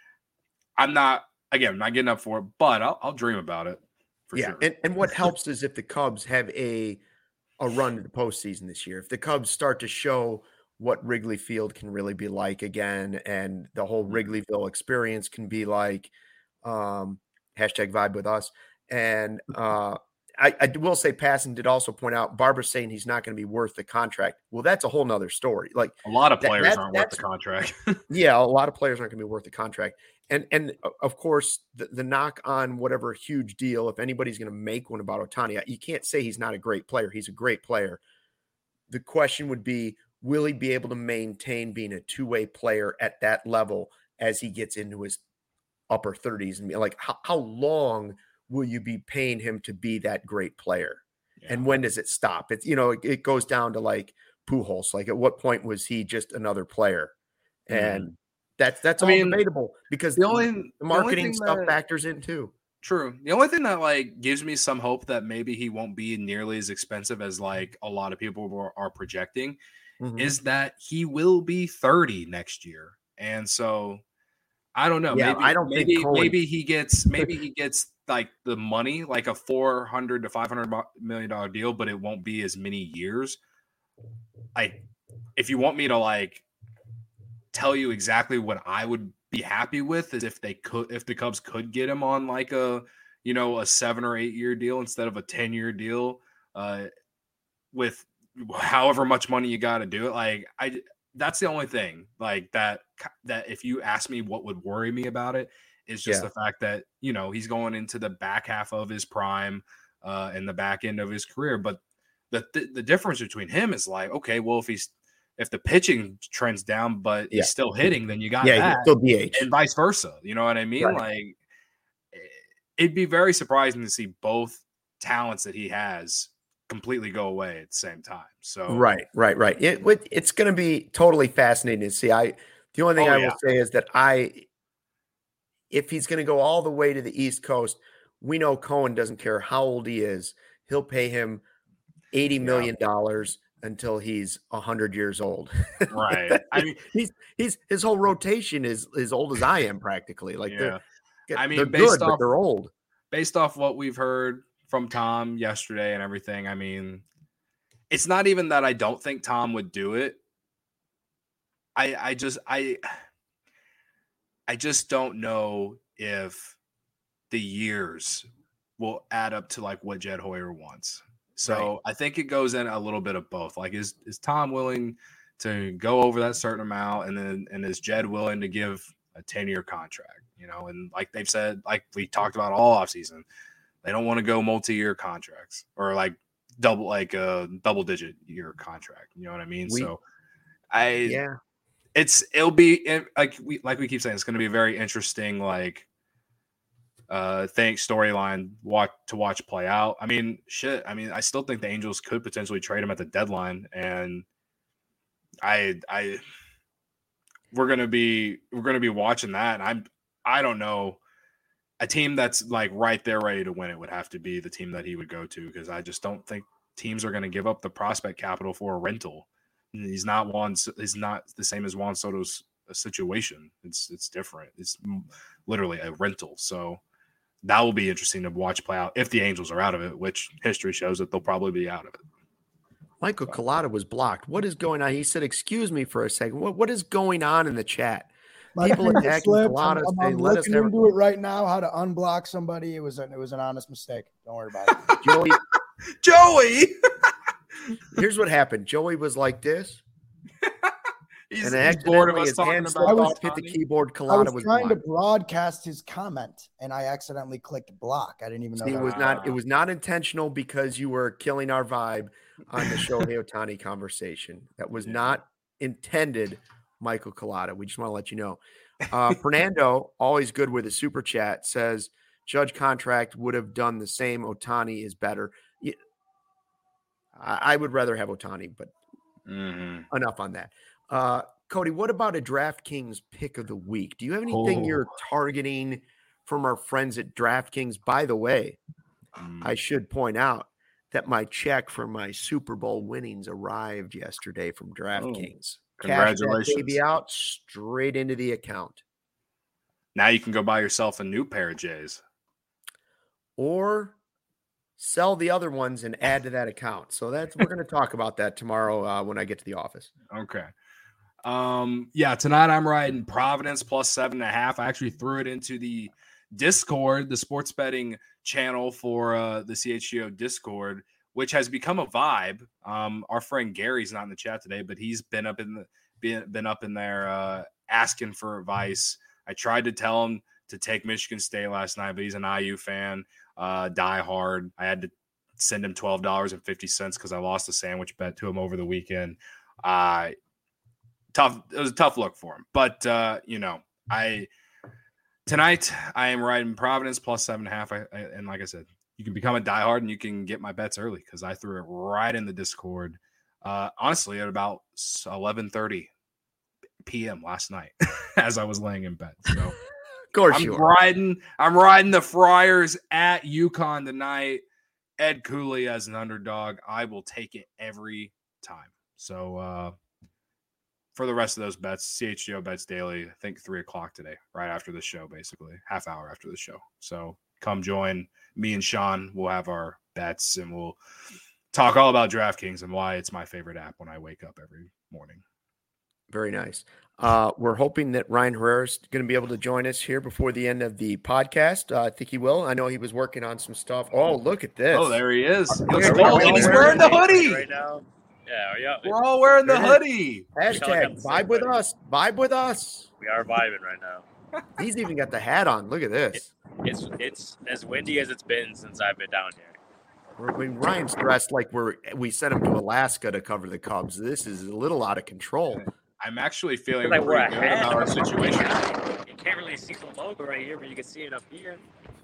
I'm not, again, I'm not getting up for it, but I'll, I'll dream about it for yeah. sure. And, and what helps is if the Cubs have a, a run to the postseason this year, if the Cubs start to show what Wrigley Field can really be like again, and the whole Wrigleyville experience can be like, um, hashtag vibe with us. And, uh, I, I will say Passan did also point out Barbara's saying he's not going to be worth the contract. Well, that's a whole nother story. Like a lot of players that, aren't worth the contract. Yeah, a lot of players aren't going to be worth the contract. And and of course, the, the knock on whatever huge deal, if anybody's going to make one about Ohtani, you can't say he's not a great player. He's a great player. The question would be, will he be able to maintain being a two-way player at that level as he gets into his upper thirties? And like, how, how long will you be paying him to be that great player? Yeah. And when does it stop? It's, you know, it, it goes down to like Pujols. Like at what point was he just another player? And mm. that's, that's I all mean, debatable because the only the marketing only stuff that, factors in too. True. The only thing that like gives me some hope that maybe he won't be nearly as expensive as like a lot of people are, are projecting mm-hmm. is that he will be thirty next year. And so I don't know. Yeah, maybe I don't maybe, think Cohen... maybe he gets maybe he gets like the money, like a four hundred to five hundred million dollar deal, but it won't be as many years. Like, if you want me to like tell you exactly what I would be happy with is if they could, if the Cubs could get him on like a, you know, a seven or eight year deal instead of a ten year deal, uh, with however much money you got to do it. Like I. That's the only thing like that, that if you ask me what would worry me about it is just yeah. the fact that, you know, he's going into the back half of his prime uh, and the back end of his career. But the, the, the difference between him is like, okay, well, if he's, if the pitching trends down, but yeah. he's still hitting, then you got yeah, that still D H. And vice versa. You know what I mean? Right. Like it'd be very surprising to see both talents that he has completely go away at the same time. So right, right, right. It, it it's going to be totally fascinating to see. I the only thing oh, I yeah. will say is that I, if he's going to go all the way to the East Coast, we know Cohen doesn't care how old he is. He'll pay him eighty million dollars yeah. until he's a hundred years old. Right. I mean, he's he's his whole rotation is as old as I am practically. Like yeah. they're, I mean, they're based good, off, but they're old. Based off what we've heard from Tom yesterday and everything, I mean, it's not even that I don't think Tom would do it. I I just I I just don't know if the years will add up to like what Jed Hoyer wants. So right. I think it goes in a little bit of both. Like is is Tom willing to go over that certain amount, and then and is Jed willing to give a ten-year contract? You know, and like they've said, like we talked about all offseason, they don't want to go multi-year contracts or like double like a double digit year contract. You know what I mean? We, so I yeah, it's it'll be like we like we keep saying, it's going to be a very interesting like uh thing storyline watch to watch play out. I mean, shit. I mean, I still think the Angels could potentially trade him at the deadline, and I I we're gonna be we're gonna be watching that. And I'm I don't know. A team that's like right there ready to win it would have to be the team that he would go to, because I just don't think teams are going to give up the prospect capital for a rental. He's not Juan. He's not the same as Juan Soto's situation. It's it's different. It's literally a rental. So that will be interesting to watch play out if the Angels are out of it, which history shows that they'll probably be out of it. Michael Collada was blocked. What is going on? He said, "Excuse me for a second. What what is going on in the chat?" People attacking Collada. I'm, I'm let looking us into it right now. How to unblock somebody? It was an, it was an honest mistake. Don't worry about it. Joey, Joey. Here's what happened. Joey was like this. He's, and he's bored of accidentally us his talking hand about slipped off, hit the Ohtani. keyboard. I Collada was was trying to blocked. broadcast his comment, and I accidentally clicked block. I didn't even know See, that it was Wow. not. It was not intentional because you were killing our vibe on the Shohei Ohtani conversation. That was Yeah. not intended, Michael Collada. We just want to let you know. Uh, Fernando, always good with a super chat, says Judge contract would have done the same. Ohtani is better. Yeah, I, I would rather have Ohtani, but Mhm. enough on that. Uh, Cody, what about a DraftKings pick of the week? Do you have anything Oh. you're targeting from our friends at DraftKings? By the way, Mm. I should point out that my check for my Super Bowl winnings arrived yesterday from DraftKings. Cash that Congratulations. baby out straight into the account. Now you can go buy yourself a new pair of J's. Or sell the other ones and add to that account. So that's we're going to talk about that tomorrow uh, when I get to the office. Okay. Um, yeah, tonight I'm riding Providence plus seven and a half. I actually threw it into the Discord, the sports betting channel for uh, the C H G O Discord, which has become a vibe. Um, our friend Gary's not in the chat today, but he's been up in the been, been up in there uh, asking for advice. I tried to tell him to take Michigan State last night, but he's an I U fan, uh, die hard. I had to send him twelve dollars and fifty cents because I lost a sandwich bet to him over the weekend. Uh, tough. It was a tough look for him, but uh, you know, I tonight I am riding Providence plus seven and a half. I, I, and like I said, you can become a diehard and you can get my bets early because I threw it right in the Discord. Uh, honestly, at about eleven thirty p.m. last night as I was laying in bed. So Of course I'm you are. riding. I'm riding the Friars at UConn tonight. Ed Cooley as an underdog. I will take it every time. So uh, for the rest of those bets, C H G O Bets Daily, I think three o'clock today, right after the show, basically half hour after the show. So come join me and Sean. We'll have our bets and we'll talk all about DraftKings and why it's my favorite app when I wake up every morning. Very nice. Uh, we're hoping that Ryan Herrera is going to be able to join us here before the end of the podcast. Uh, I think he will. I know he was working on some stuff. Oh, look at this. Oh, there he is. He looks Are we cold, all and he's wearing wearing the hoodie. right now. Yeah, yeah, We're all wearing the There it hoodie. Hashtag vibe with us. Vibe with us. we are vibing right now. He's even got the hat on. Look at this. It's it's as windy as it's been since I've been down here. I mean, Ryan's dressed like we're we sent him to Alaska to cover the Cubs. This is a little out of control. I'm actually feeling Like we're pretty good ahead. about our situation. You can't really see the logo right here, but you can see it up here.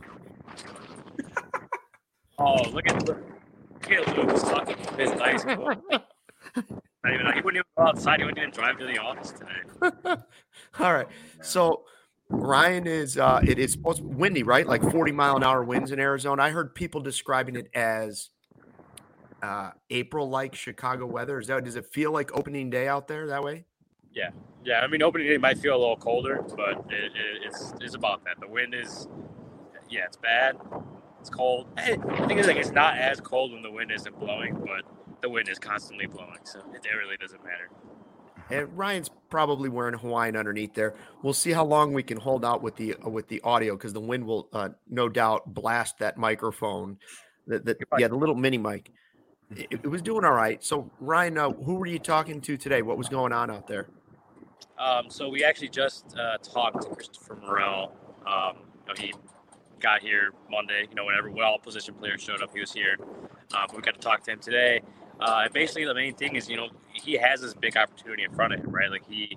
Oh, look at look, look at Luke sucking his ice. Not even, he wouldn't even go outside. He wouldn't even drive to the office today. All right. So Ryan is uh it is supposed to be windy, right? Like forty mile an hour winds in Arizona. I heard people describing it as uh April like Chicago weather. Is that does it feel like opening day out there that way? Yeah, yeah. I mean, opening day might feel a little colder, but it, it, it's it's about that. The wind is, yeah, it's bad. It's cold. Hey, the thing is, like, it's not as cold when the wind isn't blowing, but the wind is constantly blowing, so it, it really doesn't matter. And Ryan's probably wearing Hawaiian underneath there. We'll see how long we can hold out with the uh, with the audio because the wind will uh, no doubt blast that microphone. The, the, yeah, the little mini mic. It, it was doing all right. So Ryan, uh, who were you talking to today? What was going on out there? Um, so we actually just uh, talked to Christopher Morel. Um, you know, he got here Monday. You know, whenever when all position players showed up, he was here. Uh, but we got to talk to him today. Uh, and basically, the main thing is, you know, he has this big opportunity in front of him, right? Like he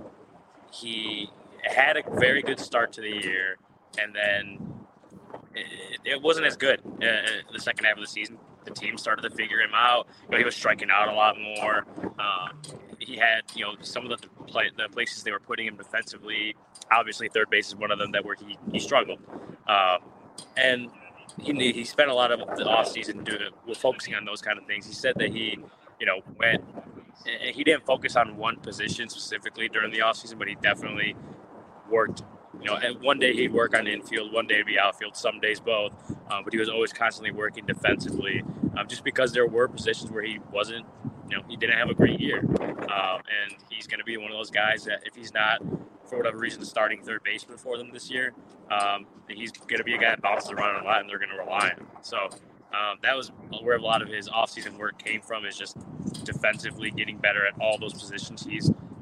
he had a very good start to the year, and then it, it wasn't as good uh, the second half of the season. The team started to figure him out. You know, he was striking out a lot more. Um, he had, you know, some of the play, the places they were putting him defensively. Obviously, third base is one of them that where he he struggled, um, and he he spent a lot of the offseason doing focusing on those kind of things. He said that he, you know, went. He didn't focus on one position specifically during the offseason, but he definitely worked. You know, and one day he'd work on infield, one day he'd be outfield, some days both. Um, but he was always constantly working defensively, um, just because there were positions where he wasn't, you know, he didn't have a great year. Um, and he's going to be one of those guys that if he's not, for whatever reason, starting third baseman for them this year, um, he's going to be a guy that bounces around a lot and they're going to rely on him. So um, that was where a lot of his offseason work came from, is just defensively getting better at all those positions. He's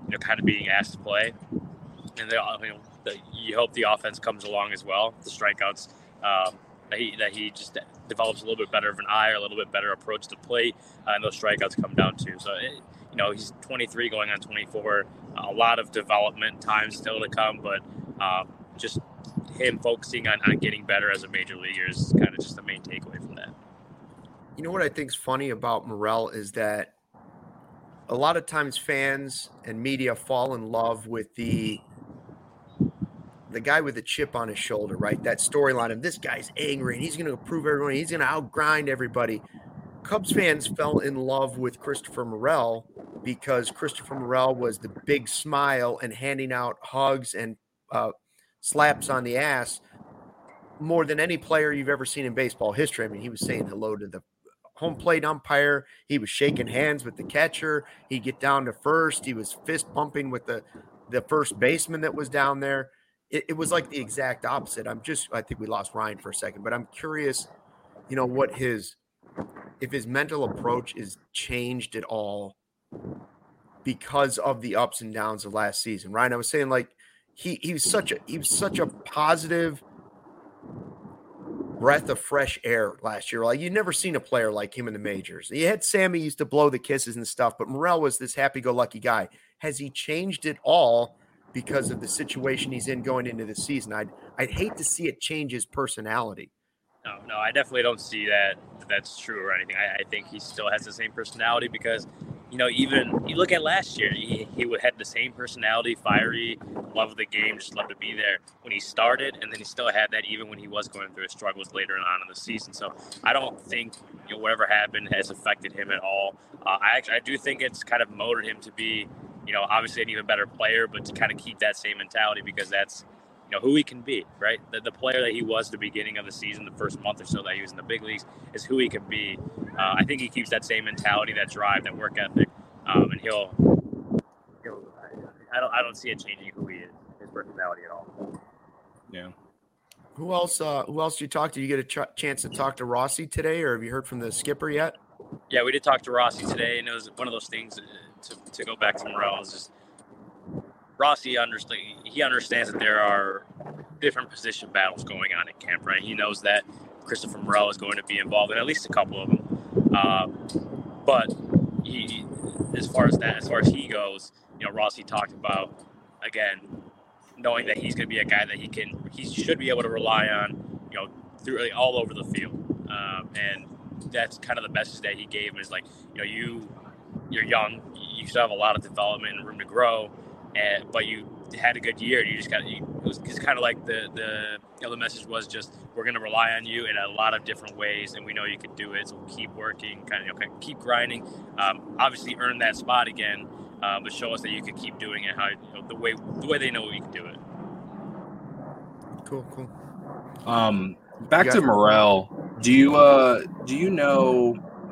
you know, kind of being asked to play. And they, you know, the, you hope the offense comes along as well. The strikeouts, um, that he that he just develops a little bit better of an eye or a little bit better approach to the plate, uh, and those strikeouts come down too. So, it, you know, he's twenty-three going on twenty-four. A lot of development time still to come, but um, just him focusing on, on getting better as a major leaguer is kind of just the main takeaway from that. You know what I think is funny about Morel is that a lot of times fans and media fall in love with the the guy with the chip on his shoulder, right? That storyline of this guy's angry and he's going to prove everyone, he's going to outgrind everybody. Cubs fans fell in love with Christopher Morel because Christopher Morel was the big smile and handing out hugs and uh, slaps on the ass more than any player you've ever seen in baseball history. I mean, he was saying hello to the home plate umpire. He was shaking hands with the catcher. He'd get down to first. He was fist bumping with the, the first baseman that was down there. It, it was like the exact opposite. I'm just, I think we lost Ryan for a second, but I'm curious, you know, what his, if his mental approach is changed at all because of the ups and downs of last season. Ryan, I was saying, like, he, he was such a, he was such a positive breath of fresh air last year. Like, you'd never seen a player like him in the majors. You had Sammy used to blow the kisses and stuff, but Morel was this happy-go-lucky guy. Has he changed it all because of the situation he's in going into the season? I'd I'd hate to see it change his personality. No, no, I definitely don't see that that's true or anything. I, I think he still has the same personality because, you know, even you look at last year, he, he had the same personality, fiery, love the game, just love to be there when he started, and then he still had that even when he was going through his struggles later on in the season. So I don't think, you know, whatever happened has affected him at all. Uh, I actually I do think it's kind of motivated him to be, you know, obviously an even better player, but to kind of keep that same mentality because that's, you know, who he can be, right? The, the player that he was at the beginning of the season, the first month or so that he was in the big leagues, is who he can be. Uh, I think he keeps that same mentality, that drive, that work ethic, um, and he'll, he'll. I don't. I don't see it changing who he is, his personality at all. Yeah. Who else? Uh, who else did you talk to? You get a ch- chance to talk to Rossi today, or have you heard from the skipper yet? Yeah, we did talk to Rossi today, and it was one of those things. To, to go back to Morel, is just Rossi understand. He understands that there are different position battles going on in camp, right? He knows that Christopher Morel is going to be involved in at least a couple of them. Uh, but he, as far as that, as far as he goes, you know, Rossi talked about again knowing that he's going to be a guy that he can, he should be able to rely on, you know, through all over the field, um, and that's kind of the message that he gave him is like, you know, you. You're young, you still have a lot of development and room to grow, and but you had a good year. You just got you, it was just kind of like the the you know the message was just we're going to rely on you in a lot of different ways, and we know you can do it. So keep working, kind of you know, keep grinding. Um, obviously, earn that spot again, uh, but show us that you can keep doing it how you know, the way the way they know you can do it. Cool, cool. Um, back to Morel. Do you uh do you know?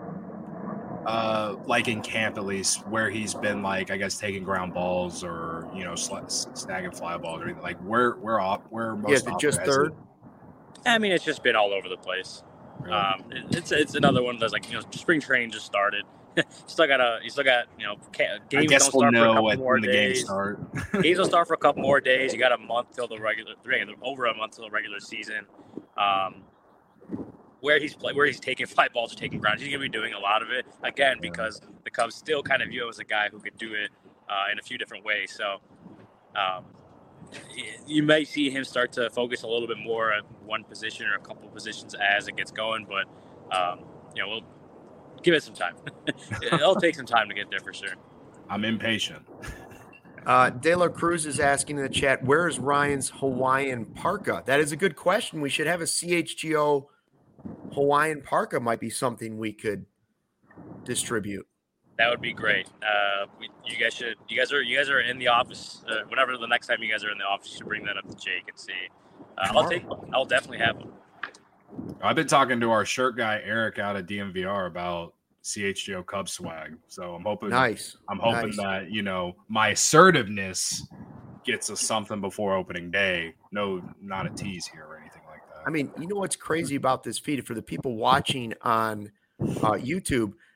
Uh, like in camp, at least, where he's been, like, I guess, taking ground balls or, you know, sl- snagging fly balls or anything. Like, where, where, off, where most yeah, just third? It? I mean, it's just been all over the place. Really? Um, it, it's it's another one of those, like, you know, spring training just started. you still got a, you still got, you know, games I guess don't start we'll for a know couple when more the days. games start. Games will start for a couple more days. You got a month till the regular, over a month till the regular season. Um, Where he's play, where he's taking fly balls or taking ground, he's going to be doing a lot of it again because the Cubs still kind of view him as a guy who could do it uh, in a few different ways. So um, you may see him start to focus a little bit more on one position or a couple positions as it gets going, but um, you know, we'll give it some time. It'll take some time to get there for sure. I'm impatient. Uh, De La Cruz is asking in the chat, where is Ryan's Hawaiian parka? That is a good question. We should have a C H G O Hawaiian parka might be something we could distribute. That would be great. Uh, we, you guys should. You guys are. You guys are in the office. Uh, whenever the next time you guys are in the office, you should bring that up to Jake and see. Uh, I'll take. I'll definitely have one. I've been talking to our shirt guy Eric out at D M V R about C H G O Cubs swag. So I'm hoping. Nice. I'm hoping nice. that you know my assertiveness gets us something before opening day. No, not a tease here or anything like that. I mean, you know what's crazy about this feed for the people watching on uh, YouTube?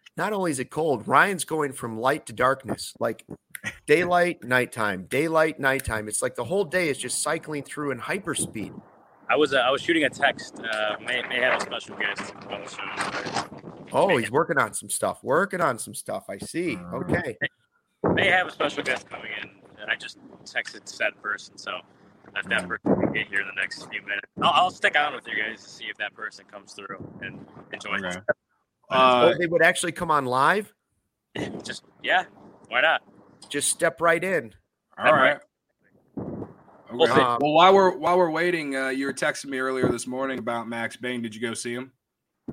not only is it cold, Ryan's going from light to darkness, like daylight, nighttime, daylight, nighttime. It's like the whole day is just cycling through in hyperspeed. I was uh, I was shooting a text. Uh, may may have a special guest on the show. Oh, he's working on some stuff. Working on some stuff. I see. Okay. May have a special guest coming in. I just texted said person, so if that person can get here in the next few minutes, I'll, I'll stick on with you guys to see if that person comes through and enjoys Okay. it. Uh, oh, they would actually come on live? Just yeah, why not? Just step right in. all right. We'll Okay. see. Um, Well, while we're while we're waiting, uh, you were texting me earlier this morning about Max Bain. Did you go see him?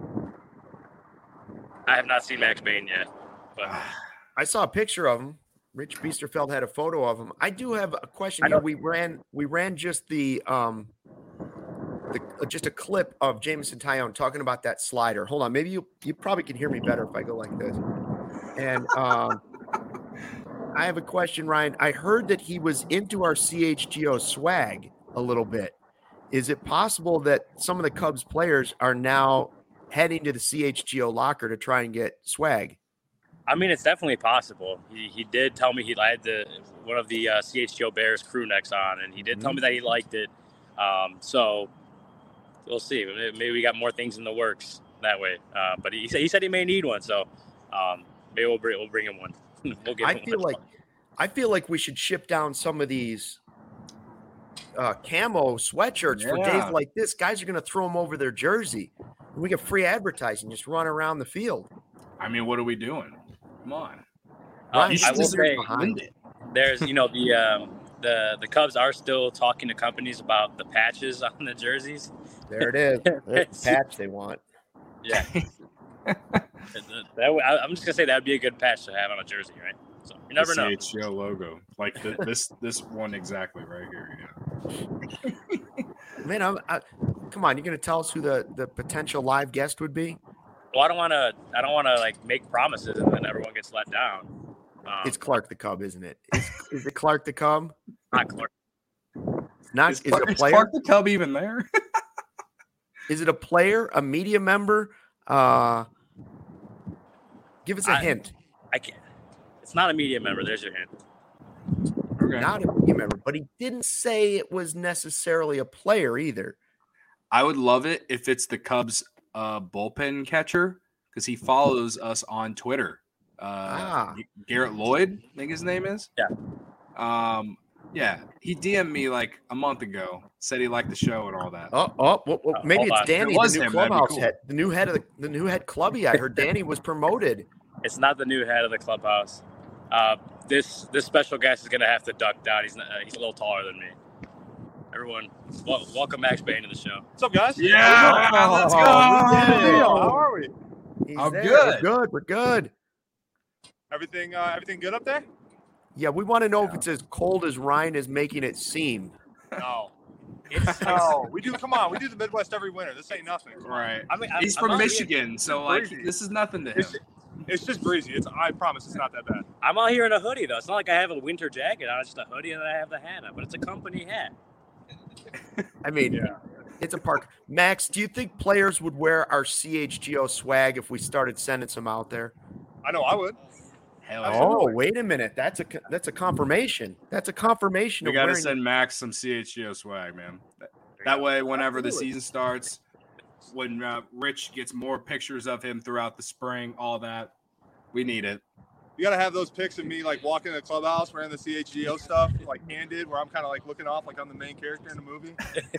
I have not seen Max Bain yet, but I saw a picture of him. Rich Biesterfeld had a photo of him. I do have a question I here. know- We ran we ran just the um the uh, just a clip of Jameson Tyone talking about that slider. Hold on, maybe you you probably can hear me better if I go like this. And um I have a question, Ryan. I heard that he was into our C H G O swag a little bit. Is it possible that some of the Cubs players are now heading to the C H G O locker to try and get swag? I mean, it's definitely possible. He, he did tell me he had the one of the uh, C H G O Bears crew necks on, and he did tell me that he liked it. Um, so we'll see. Maybe we got more things in the works that way. Uh, but he said he said he may need one, so um, maybe we'll bring we'll bring him one. We'll give I him feel one. like I feel like we should ship down some of these uh, camo sweatshirts for days Yeah. like this. Guys are going to throw them over their jersey. And we get free advertising. Just run around the field. I mean, what are we doing? Come on. Um, Ryan, I will just say behind it. there's you know the um, the the Cubs are still talking to companies about the patches on the jerseys. There it is. That's the patch they want. Yeah. that, would- I- I'm just gonna say that would be a good patch to have on a jersey, right? So you never the know. C H G O logo, like the, this this one exactly right here. Yeah. Man, I'm, I, come on. You're going to tell us who the, the potential live guest would be? Well, I don't want to. I don't want to like make promises and then everyone gets let down. Um, It's Clark the Cub, isn't it? Is, is it Clark the Cub? not Clark. Not Is, is, Clark, it a is player? Clark the Cub even there? Is it a player? A media member? Uh, give us a I- hint. I can't. It's not a media member. There's your hint. Okay. Not a media member, but he didn't say it was necessarily a player either. I would love it if it's the Cubs uh, bullpen catcher because he follows us on Twitter. Uh, Ah. Garrett Lloyd, I think his name is. Yeah. Um. Yeah. He D M'd me like a month ago. Said he liked the show and all that. Oh, oh, well, well, Uh, maybe hold it's on. Danny, If it was the new him, that'd be clubhouse cool. head, the new head of the, the new head clubby. I heard Danny was promoted. It's not the new head of the clubhouse. Uh, this this special guest is gonna have to duck down. He's not, uh, he's a little taller than me. Everyone, wel- welcome Max Bain to the show. What's up, guys? Yeah, Oh, let's we go. did it. How are we? He's I'm there. good. We're good. We're good. Everything, uh, everything good up there? Yeah, we want to know if it's as cold as Ryan is making it seem. No. It's, no, we do. Come on, we do the Midwest every winter. This ain't nothing. Come on. Right. I mean, I'm, He's I'm from out here- Michigan, so It's like breezy. this is nothing to him. It's, it's just breezy. It's. I promise, it's not that bad. I'm out here in a hoodie though. It's not like I have a winter jacket on. It's just a hoodie and then I have the hat on. But it's a company hat. I mean, Yeah. it's a park. Max, do you think players would wear our C H G O swag if we started sending some out there? I know I would. Hell Oh, yeah. Oh, wait a minute. That's a that's a confirmation. That's a confirmation We of got to wearing. send Max some C H G O swag, man. That, that way, whenever the Absolutely. season starts, when uh, Rich gets more pictures of him throughout the spring, all that, we need it. You gotta have those pics of me like walking in the clubhouse wearing the C H G O stuff, like handed, where I'm kind of like looking off like I'm the main character in the movie.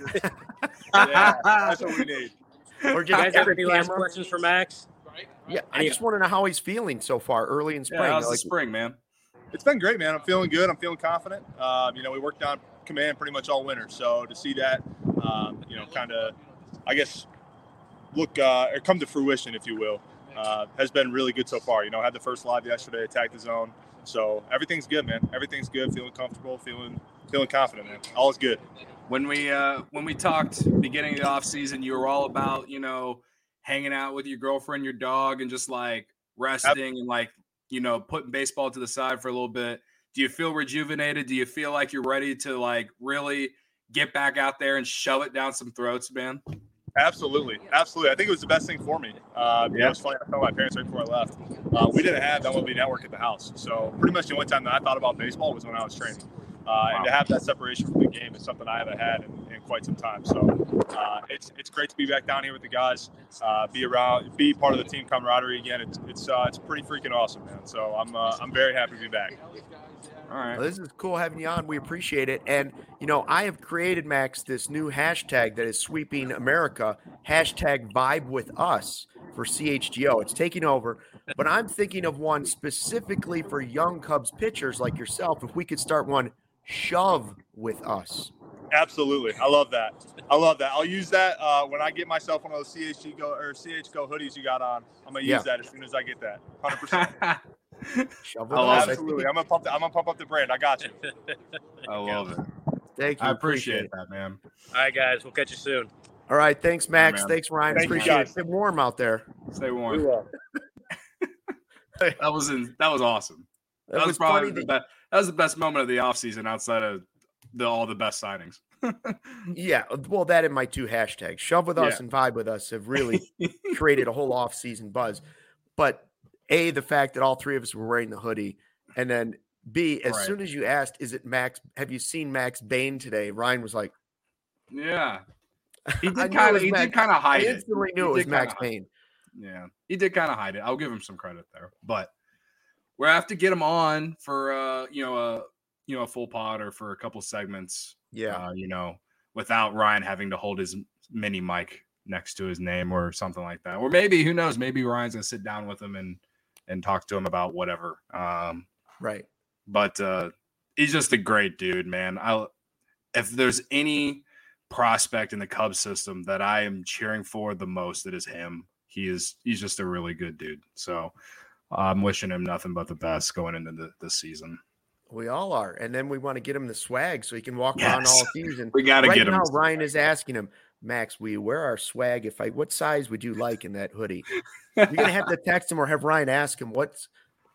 Yeah, that's what we need. or Do you just guys have every any last camera. questions for Max? Yeah, I Any- just want to know how he's feeling so far, early in spring. Yeah, how's the Like, spring, man? It's been great, man. I'm feeling good. I'm feeling confident. Um, you know, we worked on command pretty much all winter, so to see that, um, you know, kind of, I guess, look uh, or come to fruition, if you will, uh, has been really good so far. You know, I had the first live yesterday, attacked the zone, so everything's good, man. Everything's good. Feeling comfortable, feeling feeling confident, man. All is good. When we uh, when we talked beginning of the off season, you were all about you know hanging out with your girlfriend, your dog, and just like resting and like you know putting baseball to the side for a little bit. Do you feel rejuvenated? Do you feel like you're ready to like really get back out there and shove it down some throats, man? Absolutely, absolutely. I think it was the best thing for me. Uh, yeah, it was funny. I told my parents right before I left. Uh, we didn't have M L B Network at the house, so pretty much the only time that I thought about baseball was when I was training. Uh, wow. And to have that separation from the game is something I haven't had in, in quite some time. So uh, it's it's great to be back down here with the guys, uh, be around, be part of the team camaraderie again. It's it's uh, it's pretty freaking awesome, man. So I'm uh, I'm very happy to be back. All right. Well, this is cool having you on. We appreciate it. And, you know, I have created, Max, this new hashtag that is sweeping America, hashtag Vibe With Us for C H G O. It's taking over. But I'm thinking of one specifically for young Cubs pitchers like yourself. If we could start one, Shove With Us. Absolutely. I love that. I love that. I'll use that uh, when I get myself one of those C H G Go or C H Go hoodies you got on. I'm going to use yeah. that as soon as I get that. one hundred percent. Shove oh, absolutely. I'm gonna pump. The, I'm gonna pump up the brand. I got you. I love it. Thank you. I appreciate, appreciate that, man. All right, guys. We'll catch you soon. All right. Thanks, Max. Right, thanks, Ryan. Thank appreciate it. Stay warm out there. Stay warm. that was in, that was awesome. That, that was, was probably the best. That was the best moment of the offseason outside of the all the best signings. yeah. Well, that and my two hashtags, Shove With Us yeah. and Vibe With Us, have really created a whole offseason buzz. But A, the fact that all three of us were wearing the hoodie, and then B, as right. soon as you asked, is it Max? Have you seen Max Bain today? Ryan was like, "Yeah." He did kind of. He Max, did kind of hide I it. Instantly knew it was Max Bain. Yeah, he did kind of hide it. I'll give him some credit there, but we have to get him on for uh, you know a you know a full pod or for a couple segments. Yeah, uh, you know, without Ryan having to hold his mini mic next to his name or something like that, or maybe who knows? Maybe Ryan's gonna sit down with him and. and talk to him about whatever. Um, right. But uh, he's just a great dude, man. I if there's any prospect in the Cubs system that I am cheering for the most, it is him. He is he's just a really good dude. So I'm wishing him nothing but the best going into the, the season. We all are. And then we want to get him the swag so he can walk yes. around all season. We got to right get him. Right now, Ryan is asking him, Max, we wear our swag. If I, what size would you like in that hoodie? You're going to have to text him or have Ryan ask him what's,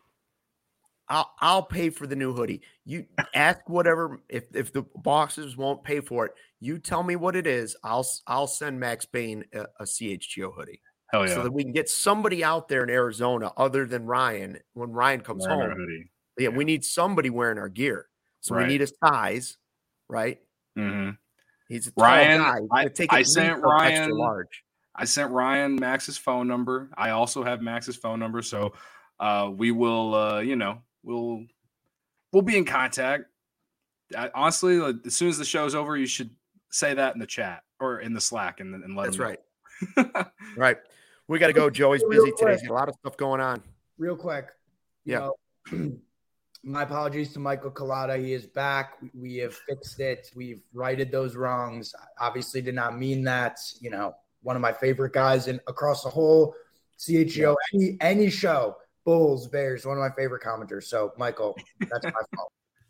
I'll, I'll pay for the new hoodie. You ask whatever, if, if the boxes won't pay for it, you tell me what it is. I'll, I'll send Max Bain a, a C H G O hoodie. Hell yeah. So that we can get somebody out there in Arizona other than Ryan when Ryan comes Wearing home. Yeah, yeah, we need somebody wearing our gear. So right. we need a size, right? Mm-hmm. He's a tall Ryan, guy. I, take I sent Ryan large. I sent Ryan Max's phone number. I also have Max's phone number, so uh, we will, uh, you know, we'll we'll be in contact. I, honestly, like, as soon as the show's over, you should say that in the chat or in the Slack and, and let That's him know. Right. Right. We got to go. Joey's busy today. He's got a lot of stuff going on. Real quick. Yeah. Know, my apologies to Michael Collada. He is back. We have fixed it. We've righted those wrongs. Obviously did not mean that. You know, one of my favorite guys in across the whole C H G O, yeah. any, any show, Bulls, Bears, one of my favorite commenters. So, Michael, that's my fault.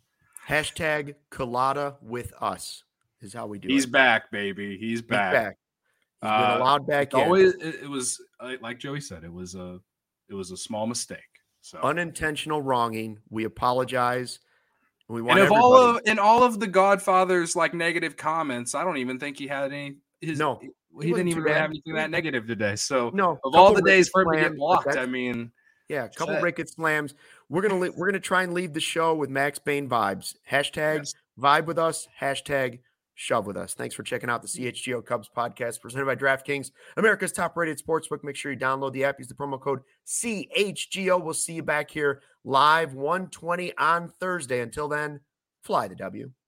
Hashtag Collada with us is how we do He's it. He's back, baby. He's back. He's back. He's been uh, allowed back in. Always, it, it was, like Joey said, it was a, it was a small mistake. So unintentional wronging. We apologize. We want and if everybody. all of in all of the Godfather's like negative comments, I don't even think he had any. His, no, he, he didn't even really have anything that negative today. So no, of all the days for him to get blocked, I mean, yeah, a couple Rickett slams. We're gonna li- we're gonna try and leave the show with Max Bain vibes. Hashtag yes. Vibe with us. Hashtag Shove with us. Thanks for checking out the C H G O Cubs podcast presented by DraftKings, America's top-rated sportsbook. Make sure you download the app. Use the promo code C H G O. We'll see you back here live one twenty on Thursday. Until then, fly the W.